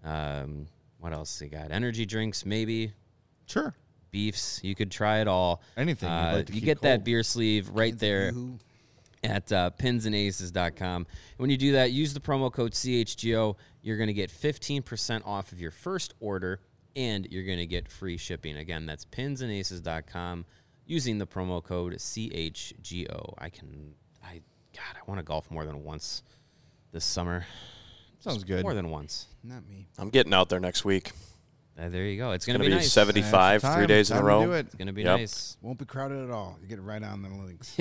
um, what else you got? Energy drinks, maybe. Sure. Beefs. You could try it all. Anything you'd Uh, like to you keep get that cold. beer sleeve right there Yoo-hoo. at uh, pins and aces dot com. When you do that, use the promo code C H G O. You're going to get fifteen percent off of your first order, and you're going to get free shipping. Again, that's pins and aces dot com using the promo code C H G O. I can, I, God, I want to golf more than once this summer. Sounds good. More than once. Not me. I'm getting out there next week. Uh, there you go. It's going Gonna to be be nice. seventy-five That's the three time. days in a Time to row. do it. It's going to be Yep. nice. Won't be crowded at all. You get right on the links.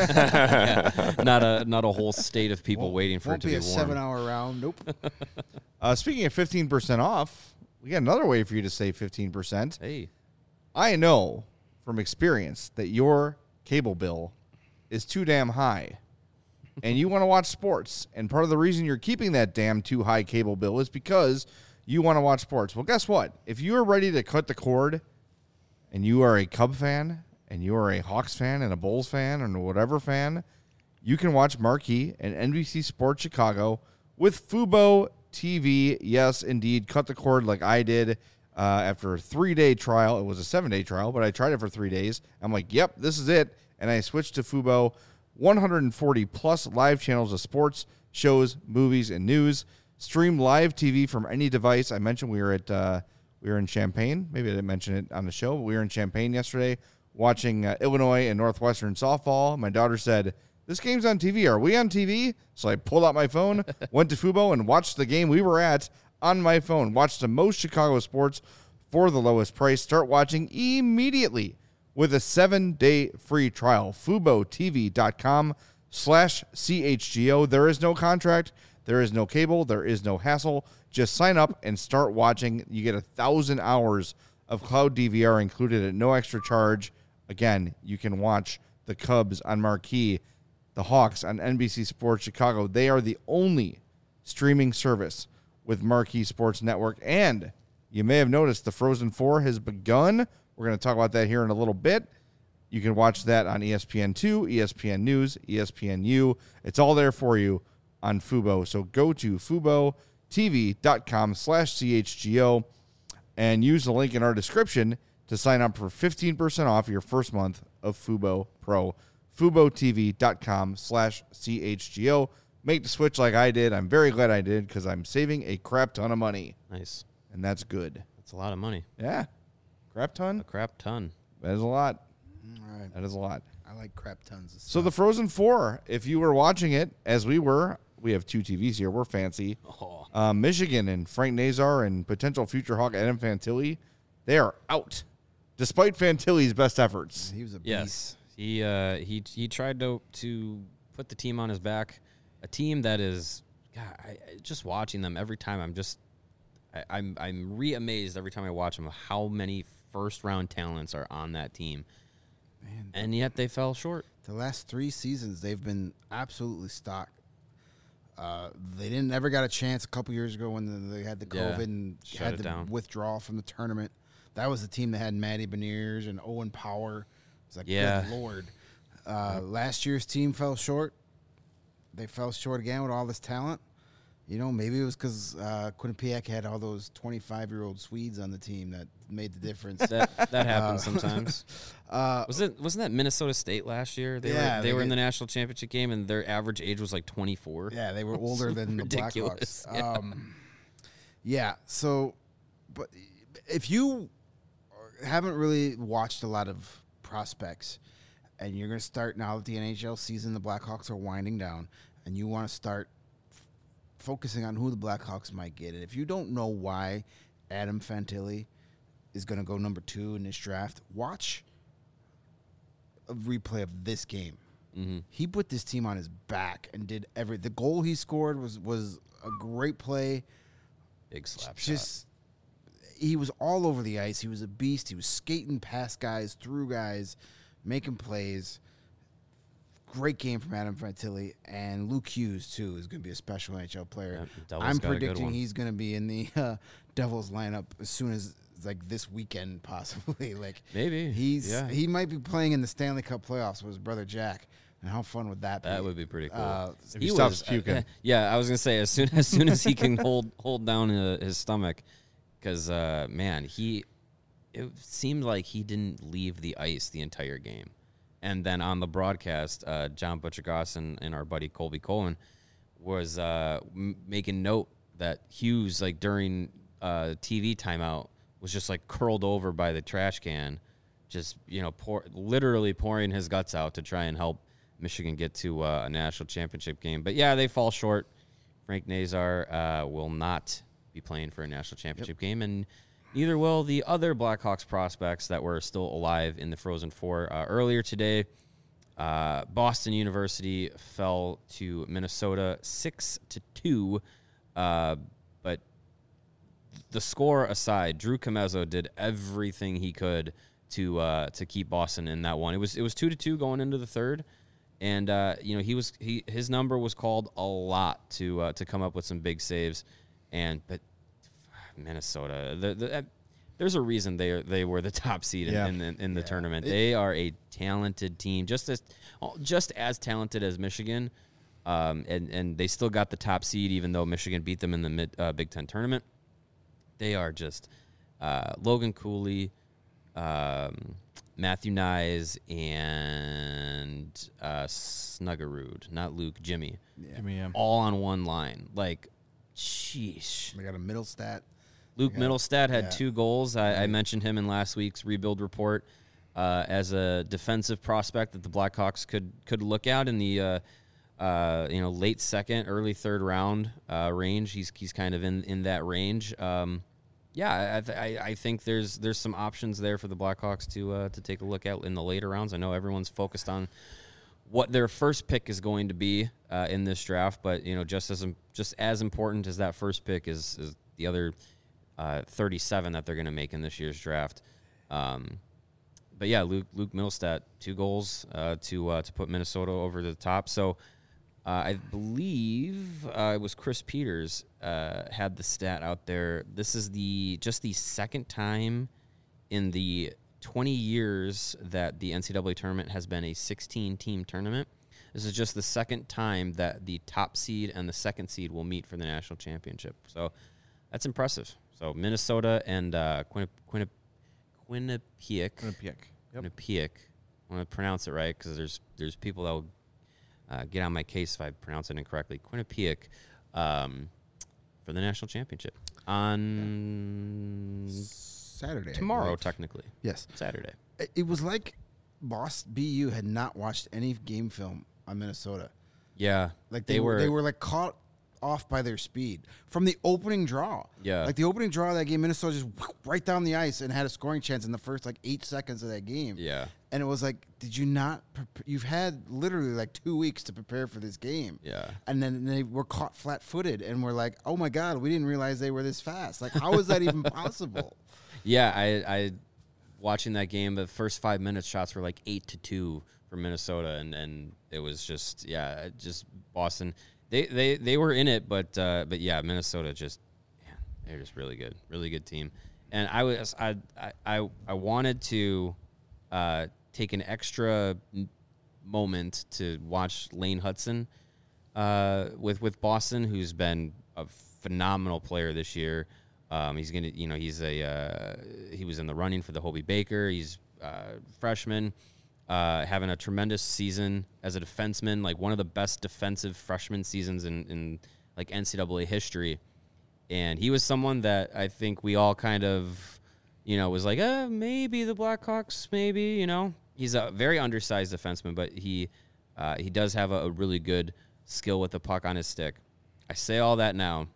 not a not a whole state of people Won't- waiting for won't it to be be, a warm. seven-hour round. Nope. Uh, speaking of fifteen percent off, we got another way for you to save fifteen percent. Hey, I know from experience that your cable bill is too damn high and you want to watch sports. And part of the reason you're keeping that damn too high cable bill is because you want to watch sports. Well, guess what? If you are ready to cut the cord and you are a Cub fan and you are a Hawks fan and a Bulls fan and whatever fan, you can watch Marquee and N B C Sports Chicago with Fubo T V. Yes, indeed. Cut the cord like I did uh, after a three-day trial. It was a seven-day trial, but I tried it for three days. I'm like, yep, this is it. And I switched to Fubo. one hundred forty plus live channels of sports, shows, movies, and news. Stream live T V from any device. I mentioned we were at uh, we were in Champaign. Maybe I didn't mention it on the show, but we were in Champaign yesterday watching uh, Illinois and Northwestern softball. My daughter said, this game's on T V. Are we on T V? So I pulled out my phone, went to Fubo, and watched the game we were at on my phone. Watched the most Chicago sports for the lowest price. Start watching immediately with a seven-day free trial. FuboTV.com slash CHGO. There is no contract. There is no cable. There is no hassle. Just sign up and start watching. You get a thousand hours of cloud D V R included at no extra charge. Again, you can watch the Cubs on Marquee, the Hawks on N B C Sports Chicago. They are the only streaming service with Marquee Sports Network. And you may have noticed the Frozen Four has begun. We're going to talk about that here in a little bit. You can watch that on E S P N two, E S P N News, E S P N U. It's all there for you on Fubo. So go to FuboTV.com slash CHGO and use the link in our description to sign up for fifteen percent off your first month of Fubo Pro. FuboTV.com slash CHGO. Make the switch like I did. I'm very glad I did because I'm saving a crap ton of money. Nice. And that's good. That's a lot of money. Yeah. Crap ton? A crap ton. That is a lot. All right. That is a lot. I like crap tons of stuff. So the Frozen Four, if you were watching it, as we were, we have two T Vs here. We're fancy. Oh. Uh, Michigan and Frank Nazar and potential future Hawk Adam Fantilli, they are out, despite Fantilli's best efforts. He was a beast. Yes, he uh, he he tried to to put the team on his back, a team that is, God, I, I- just watching them every time. I'm just, I, I'm I'm re-amazed every time I watch them of how many first round talents are on that team, Man, and yet they fell short. the last three seasons, they've been absolutely stocked. Uh, they didn't ever got a chance a couple years ago when they had the Yeah, COVID and shut had it the down. withdrawal from the tournament. That was the team that had Matty Beniers and Owen Power. It's like, Yeah. good Lord. Uh, last year's team fell short. They fell short again with all this talent. You know, maybe it was because uh, Quinnipiac had all those twenty-five-year-old Swedes on the team that made the difference. That that happens sometimes. uh, Was it wasn't that Minnesota State last year? They Yeah, were they, they were in get- the national championship game, and their average age was like twenty-four. Yeah, they were older than the ridiculous, Blackhawks. yeah. Um, yeah. So, but if you haven't really watched a lot of prospects, and you're going to start now that the N H L season, the Blackhawks are winding down, and you want to start f- focusing on who the Blackhawks might get, and if you don't know why Adam Fantilli is going to go number two in this draft, watch a replay of this game. Mm-hmm. He put this team on his back and did every. The goal he scored was was a great play. Big slap shot. Just he was all over the ice. He was a beast. He was skating past guys, through guys, making plays. Great game from Adam Fantilli, and Luke Hughes too is going to be a special N H L player. Yeah, Devils I'm got a good predicting one. he's going to be in the uh, Devils lineup as soon as like this weekend, possibly. Like Maybe. he's Yeah. he might be playing in the Stanley Cup playoffs with his brother Jack. And how fun would that be? That would be pretty cool. Uh, If he stops uh, puking. yeah, I was gonna say as soon as soon as he can hold hold down uh, his stomach, because uh, man, he it seemed like he didn't leave the ice the entire game, and then on the broadcast, uh, John Butchergoss and, and our buddy Colby Cohen was uh, m- making note that Hughes, like during uh, T V timeout, was just like curled over by the trash can, just you know, pour literally pouring his guts out to try and help Michigan get to uh, a national championship game. But yeah, they fall short. Frank Nazar uh, will not be playing for a national championship game, and neither will the other Blackhawks prospects that were still alive in the Frozen Four. Uh, earlier today, uh, Boston University fell to Minnesota six to two. Uh, but the score aside, Drew Comezzo did everything he could to uh, to keep Boston in that one. It was it was two to two going into the third. And uh, you know he was he his number was called a lot to uh, to come up with some big saves, and but Minnesota, the, the, uh, there's a reason they are, they were the top seed in, Yeah. in the in the Yeah. tournament. It- they are a talented team, just as just as talented as Michigan, um, and and they still got the top seed even though Michigan beat them in the mid, uh, Big Ten tournament. They are just uh, Logan Cooley, um, Matthew Nyes, and uh, Snuggerud, not Luke, Jimmy, Yeah. me a all on one line. Like, sheesh. They got a middle stat. Luke Yeah. Middlestad had Yeah. two goals. I, I mentioned him in last week's rebuild report. uh, as a defensive prospect that the Blackhawks could could look at in the uh, uh, you know late second, early third round uh, range. He's he's kind of in, in that range. Um, yeah, I, th- I I think there's there's some options there for the Blackhawks to uh, to take a look at in the later rounds. I know everyone's focused on what their first pick is going to be uh, in this draft, but you know, just as just as important as that first pick is, is the other uh, thirty-seven that they're going to make in this year's draft. Um, but yeah, Luke Luke Middlestat, two goals uh, to uh, to put Minnesota over the top. So uh, I believe uh, it was Chris Peters uh, had the stat out there. This is the just the second time in the twenty years that the N C double A tournament has been a sixteen-team tournament. This is just the second time that the top seed and the second seed will meet for the national championship. So that's impressive. So Minnesota and uh, Quinni- Quinni- Quinnipiac. Quinnipiac. Yep. Quinnipiac. I want to pronounce it right because there's there's people that will uh, get on my case if I pronounce it incorrectly. Quinnipiac um, for the national championship on Saturday. tomorrow, technically. Yes. Saturday. It- It was like Boss B U had not watched any game film on Minnesota. Yeah. Like they, they were, were they were like caught off by their speed from the opening draw. Yeah. Like the opening draw of that game, Minnesota just right down the ice and had a scoring chance in the first like eight seconds of that game. Yeah. And it was like, did you not? Pre- you've had literally like two weeks to prepare for this game. Yeah. And then they were caught flat-footed, and we're like, oh my god, we didn't realize they were this fast. Like, how is that even possible? Yeah, I, I watching that game, the first five minutes shots were like eight to two for Minnesota, and, and it was just yeah, it just Boston. They they, they were in it, but uh, but yeah, Minnesota just man, they're just really good, really good team. And I was I I I wanted to uh, take an extra moment to watch Lane Hudson uh, with with Boston, who's been a phenomenal player this year. Um, he's gonna, you know, he's a uh, he was in the running for the Hobie Baker. He's uh, freshman, uh, having a tremendous season as a defenseman, like one of the best defensive freshman seasons in, in like N C double A history. And he was someone that I think we all kind of, you know, was like, uh, maybe the Blackhawks, maybe, you know. He's a very undersized defenseman, but he uh, he does have a, a really good skill with the puck on his stick. I say all that now.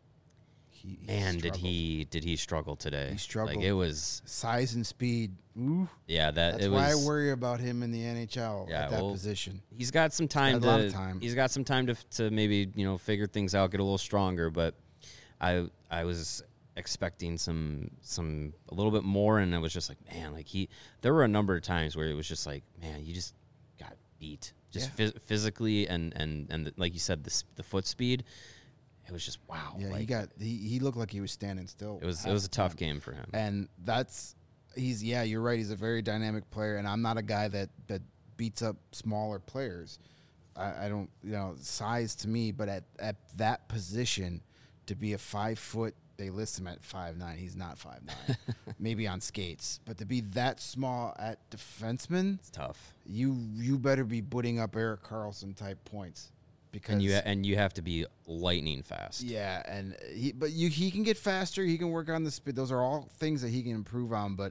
He, he Man, did struggled. he did he struggle today? He struggled. Like it was, Size and speed. Ooh. yeah. That That's it why was. I worry about him in the N H L Yeah, at that well, position. He's got some time got a lot to. of time. He's got some time to to maybe you know figure things out, get a little stronger. But I I was expecting some some a little bit more, and I was just like, man, like he. There were a number of times where it was just like, man, you just got beat, just Yeah. phys- physically and and and the, like you said, the s- the foot speed. It was just wow. Yeah, like, he got he, he looked like he was standing still. It was half it was a the tough time. game for him. And that's he's yeah, you're right. He's a very dynamic player, and I'm not a guy that that beats up smaller players. I, I don't you know size to me, but at at that position to be a five foot, they list him at five nine. He's not five nine, maybe on skates, but to be that small at defenseman, It's tough. you you better be putting up Erik Karlsson type points. Because And you ha- and you have to be lightning fast. yeah, and he but you he can get faster. He can work on the speed. Those are all things that he can improve on. But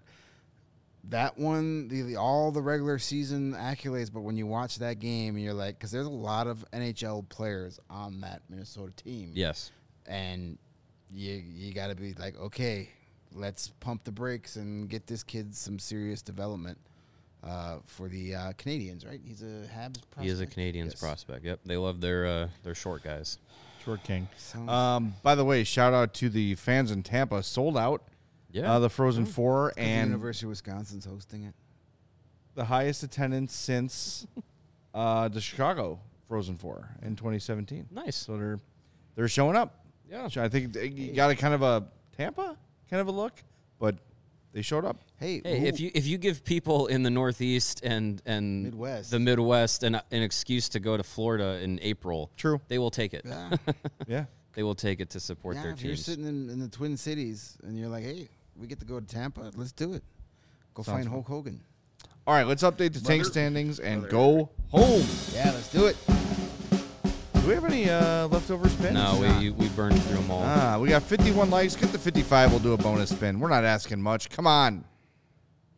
that one, the, the all the regular season accolades. But when you watch that game, you're like, because there's a lot of N H L players on that Minnesota team. Yes. and you you got to be like, okay, let's pump the brakes and get this kid some serious development. Uh, for the uh, Canadians, right? He's a Habs prospect. He is a Canadians Yes. prospect. Yep. They love their uh, their short guys. Short King. Sounds- Um, by the way, shout out to the fans in Tampa. Sold out. Yeah. Uh, the Frozen Four, the and University of Wisconsin's hosting it. the highest attendance since uh, the Chicago Frozen Four in twenty seventeen. Nice. So they're they're showing up. Yeah. So I think they you got a kind of a Tampa kind of a look, but they showed up. Hey, Hey, who- if you if you give people in the Northeast and and Midwest. the Midwest an an excuse to go to Florida in April, True. they will take it. yeah, Yeah. They will take it to support yeah, their if you're teams. sitting in, in the Twin Cities and you're like, hey, we get to go to Tampa, let's do it. Go Sounds find fun. Hulk Hogan. All right, let's update the tank Brother. standings and Brother. go home. Yeah, let's do it. Do we have any uh, leftover spins? No, we we burned through them all. Ah, we got fifty-one likes. Get the fifty-five. We'll do a bonus spin. We're not asking much. Come on.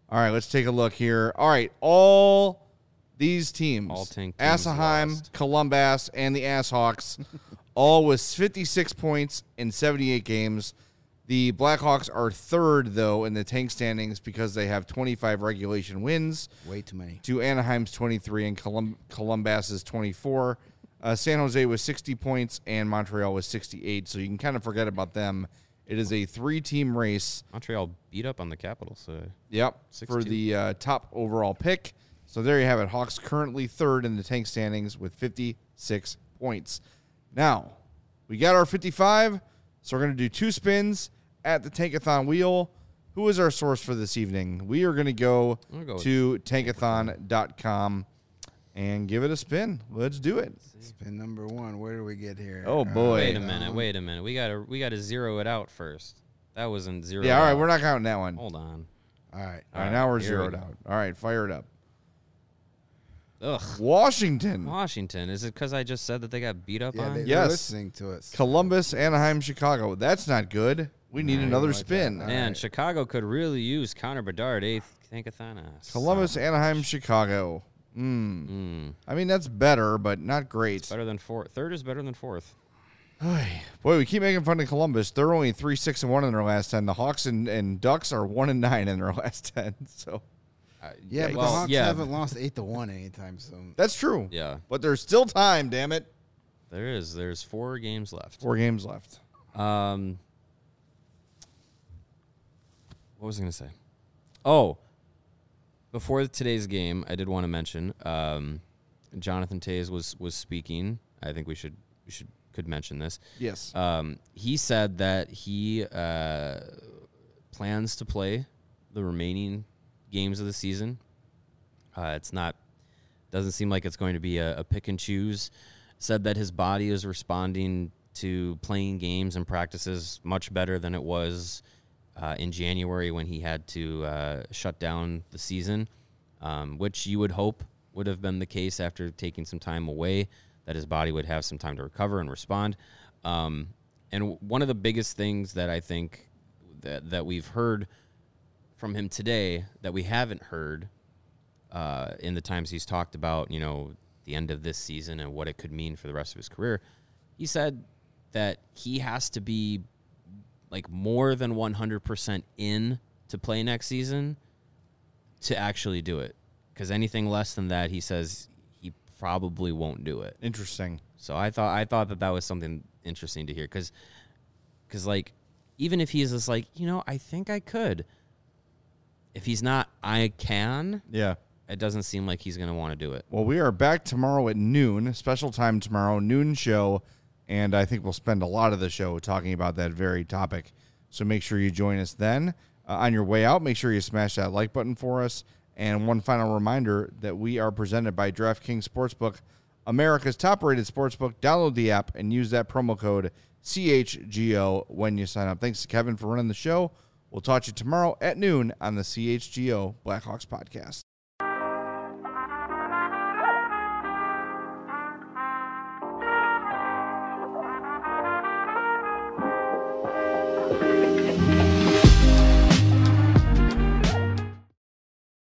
All right, let's take a look here. All right, all these teams, All tank teams Anaheim, lost. Columbus, and the Asshawks, all with fifty-six points in seventy-eight games. The Blackhawks are third, though, in the tank standings because they have twenty-five regulation wins Way too many. to Anaheim's twenty-three and Colum- Columbus's twenty-four. Uh, San Jose was sixty points and Montreal was sixty-eight, so you can kind of forget about them. It is a three-team race. Montreal beat up on the Capitals. So Yep, Six for two. the uh, top overall pick. So there you have it. Hawks currently third in the tank standings with fifty-six points. Now, we got our fifty-five, so we're going to do two spins at the Tankathon wheel. Who is our source for this evening? We are going to go, I'm gonna go with to tankathon dot com and give it a spin. Let's do it. Spin number one. Where do we get here? Oh, boy. wait a Um, minute. Wait a minute. We gotta we gotta zero it out first. That wasn't zero. Yeah, all right, out. we're not counting that one. Hold on. All right. All right, now we're here we zeroed go. out. All right, fire it up. Ugh. Washington, Washington. Is it because I just said that they got beat up Yeah, on? they, Yes. they're listening to us. Columbus, Anaheim, Chicago. That's not good. We need No, another like that. spin. All Man, right. Chicago could really use Connor Bedard, eighth Tankathon. Columbus, Anaheim, Chicago. Hmm. Mm, I mean, that's better, but not great. better than fourth. Third is better than fourth. Boy, we keep making fun of Columbus. They're only three, six, and one in their last ten. The Hawks and, and Ducks are one and nine in their last ten. So Uh, Yeah, but well, the Hawks yeah, haven't lost eight to one anytime soon. that's true. Yeah, But there's still time. Damn it. there is. There's four games left. Four games left. Um, what was I going to say? Oh, before today's game, I did want to mention um, Jonathan Toews was was speaking. I think we should we should could mention this. Yes. Um, he said that he uh, plans to play the remaining games of the season. Uh, it's not doesn't seem like it's going to be a, a pick and choose. Said that his body is responding to playing games and practices much better than it was uh, in January when he had to uh, shut down the season, um, which you would hope would have been the case after taking some time away, that his body would have some time to recover and respond. Um, and one of the biggest things that I think that, that we've heard from him today that we haven't heard uh, in the times he's talked about, you know, the end of this season and what it could mean for the rest of his career, he said that he has to be like more than one hundred percent in to play next season to actually do it. Because anything less than that, he says he probably won't do it. Interesting. So I thought I thought that that was something interesting to hear. Because, because like, even if he's just like, you know, I think I could. If he's not, I can. Yeah. It doesn't seem like he's going to want to do it. Well, we are back tomorrow at noon, special time tomorrow, noon show, and I think we'll spend a lot of the show talking about that very topic. So make sure you join us then. Uh, on your way out, make sure you smash that like button for us. And one final reminder that we are presented by DraftKings Sportsbook, America's top-rated sportsbook. Download the app and use that promo code C H G O when you sign up. Thanks to Kevin for running the show. We'll talk to you tomorrow at noon on the C H G O Blackhawks podcast.